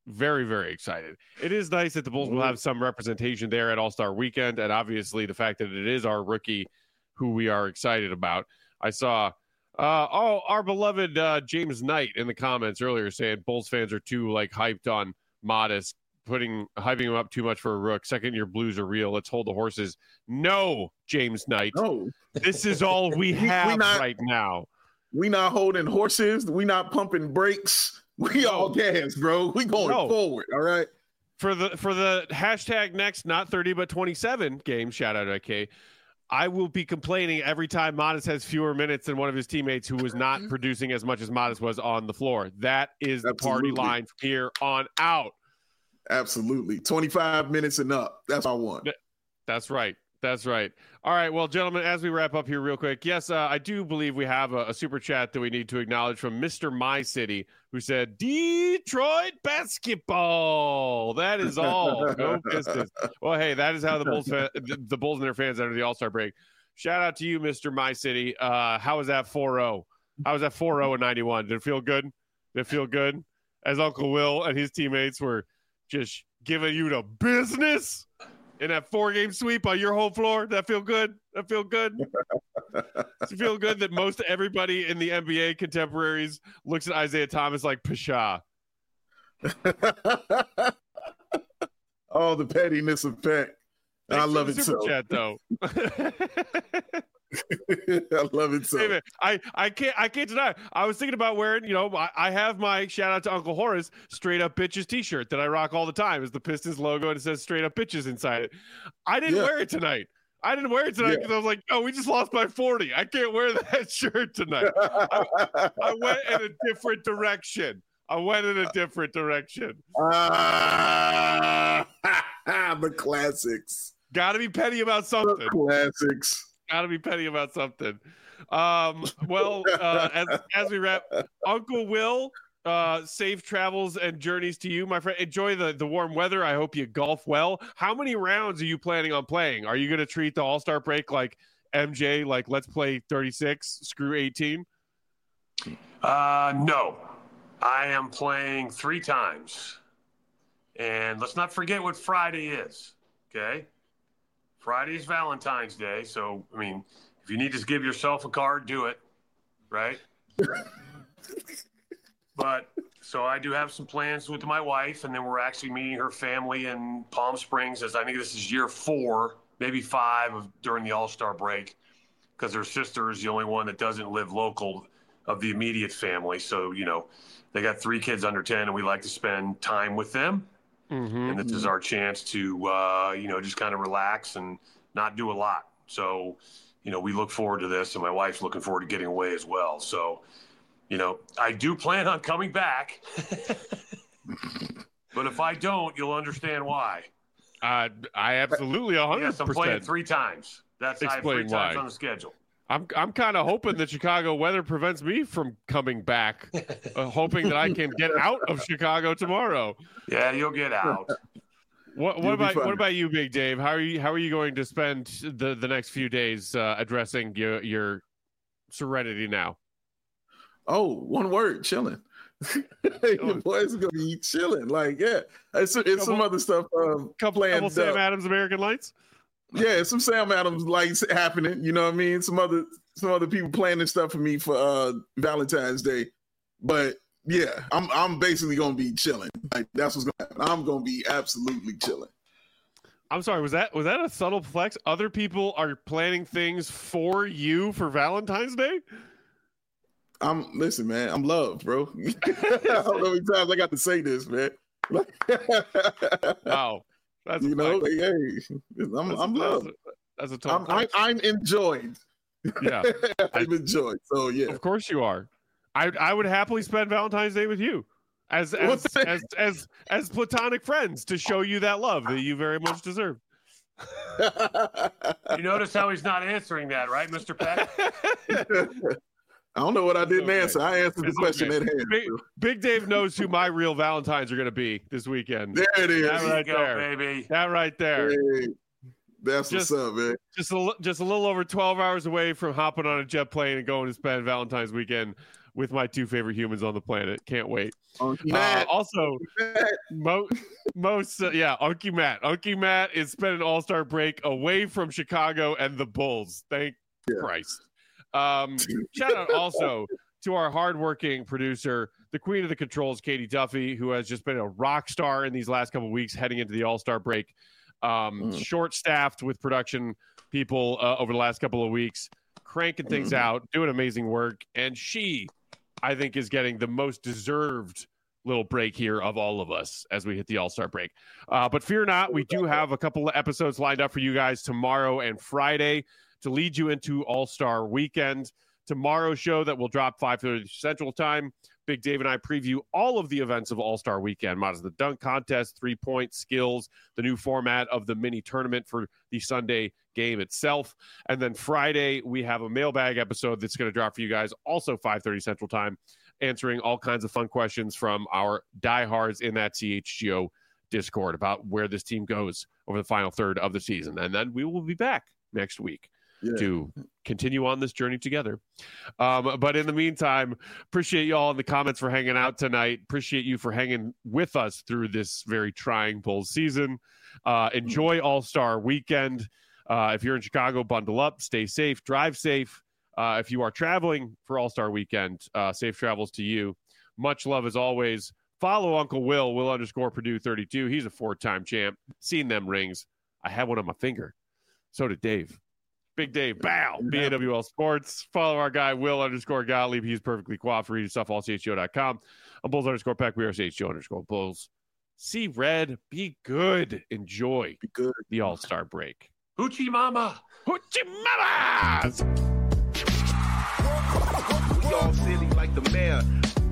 very, very excited. It is nice that the Bulls will have some representation there at All-Star Weekend, and obviously the fact that it is our rookie who we are excited about. I saw uh, oh our beloved uh, James Knight in the comments earlier saying Bulls fans are too like hyped on Modest, putting hyping him up too much for a rook. Second year blues are real. Let's hold the horses. No, James Knight. No, this is all we have we not, right now. We not holding horses. We not pumping brakes. We no. all gas, bro. We going no. forward. All right. For the for the hashtag next not thirty but twenty-seven game. Shout out to K. I will be complaining every time Modest has fewer minutes than one of his teammates who was not producing as much as Modest was on the floor. That is the Absolutely. Party line from here on out. Absolutely. twenty-five minutes and up. That's what I want. That's right. That's right. All right. Well, gentlemen, as we wrap up here real quick, yes, uh, I do believe we have a, a super chat that we need to acknowledge from Mister My City, who said, Detroit basketball. That is all. Go Pistons. Well, hey, that is how the Bulls fa- the, the Bulls and their fans enter the All-Star break. Shout out to you, Mister My City. Uh, how was that four oh? How was that four oh and ninety-one? Did it feel good? Did it feel good? As Uncle Will and his teammates were just giving you the business in that four-game sweep on your home floor. That feel good? That feel good? Does it feel good that most everybody in the N B A contemporaries looks at Isaiah Thomas like Pshaw? Oh, the pettiness of Peck. I love it so. Chat, though. I love it so. Hey, man, I, I can't I can't deny. I was thinking about wearing, you know, I, I have my shout out to Uncle Horace straight up bitches t-shirt that I rock all the time. It's the Pistons logo and it says straight up bitches inside it. I didn't yeah. wear it tonight. I didn't wear it tonight because yeah. I was like, oh, we just lost by forty. I can't wear that shirt tonight. I, I went in a different direction. I went in a different direction. Uh, the classics. Got to be petty about something. The classics. Got to be petty about something. Um, well, uh, as, as we wrap, Uncle Will, uh, safe travels and journeys to you, my friend. Enjoy the, the warm weather. I hope you golf well. How many rounds are you planning on playing? Are you going to treat the All-Star break like M J, like let's play thirty-six, screw eighteen? Uh, no. I am playing three times. And let's not forget what Friday is, okay? Friday is Valentine's Day, so, I mean, if you need to give yourself a card, do it, right? But, so I do have some plans with my wife, and then we're actually meeting her family in Palm Springs, as I think this is year four, maybe five of during the All-Star break, because her sister is the only one that doesn't live local of the immediate family. So, you know, they got three kids under ten, and we like to spend time with them. Mm-hmm. And this is our chance to, uh, you know, just kind of relax and not do a lot. So, you know, we look forward to this, and my wife's looking forward to getting away as well. So, you know, I do plan on coming back. But if I don't, you'll understand why. Uh, I absolutely one hundred percent. Yes, I'm playing three times. That's I have three why. times on the schedule. I'm I'm kind of hoping that Chicago weather prevents me from coming back, uh, hoping that I can get out of Chicago tomorrow. Yeah, you'll get out. What what about what about you, Big Dave? How are you how are you going to spend the, the next few days uh, addressing your your serenity now? Oh, one word, chilling. The boys gonna be chilling. Like, yeah, it's, it's couple, some other stuff. Um, couple, couple Sam Adams American Lights. Yeah, some Sam Adams lights happening. You know what I mean? Some other some other people planning stuff for me for uh, Valentine's Day. But yeah, I'm I'm basically gonna be chilling. Like that's what's gonna happen. I'm gonna be absolutely chilling. I'm sorry, was that was that a subtle flex? Other people are planning things for you for Valentine's Day? I'm listen, man. I'm loved, bro. I don't know how many times I got to say this, man. Wow. That's you know, like, hey, I'm that's, I'm loved. That's a, that's a I'm, I'm I'm enjoyed. Yeah, I'm enjoyed. So yeah, of course you are. I I would happily spend Valentine's Day with you, as as as, as as platonic friends to show you that love that you very much deserve. You notice how he's not answering that, right, Mister Peck? I don't know what I didn't okay. answer. I answered it's the question okay. at hand. Big, Big Dave knows who my real Valentines are going to be this weekend. There it is. That right go, there, baby. That right there. Hey, that's just, what's up, man. Just a just a little over twelve hours away from hopping on a jet plane and going to spend Valentine's weekend with my two favorite humans on the planet. Can't wait. Unky Uh, Matt. also, Matt. mo- most uh, yeah, Unky Matt. Unky Matt is spending All-Star break away from Chicago and the Bulls. Thank Yeah. Christ. Um, shout out also to our hardworking producer, the queen of the controls, Katie Duffy, who has just been a rock star in these last couple of weeks heading into the All-Star break. Um, Mm. Short-staffed with production people uh, over the last couple of weeks, cranking things Mhm. out, doing amazing work. And she, I think, is getting the most deserved little break here of all of us as we hit the All-Star break. Uh, but fear not, we do have a couple of episodes lined up for you guys tomorrow and Friday to lead you into All-Star weekend. Tomorrow's show that will drop five thirty Central Time. Big Dave and I preview all of the events of All-Star Weekend, models the dunk contest, three-point skills, the new format of the mini tournament for the Sunday game itself. And then Friday, we have a mailbag episode that's going to drop for you guys, also five thirty Central Time, answering all kinds of fun questions from our diehards in that C H G O Discord about where this team goes over the final third of the season. And then we will be back next week Yeah. to continue on this journey together. Um, but in the meantime, appreciate you all in the comments for hanging out tonight. Appreciate you for hanging with us through this very trying Bulls season. Uh, enjoy All-Star Weekend. Uh, if you're in Chicago, bundle up, stay safe, drive safe. Uh, if you are traveling for All-Star Weekend, uh, safe travels to you. Much love as always. Follow Uncle Will, Will underscore Purdue thirty-two. He's a four-time champ. Seen them rings. I have one on my finger. So did Dave. Big Dave, bow, B A W L Sports. Follow our guy, Will underscore Gottlieb. He's perfectly cooperative. Read his stuff, all C H G O dot com. I'm Bulls underscore Peck. We are C H G O underscore Bulls. See red, be good. Enjoy Be good. the All-Star break. Hoochie Mama. Hoochie Mamas! We all silly like the mayor.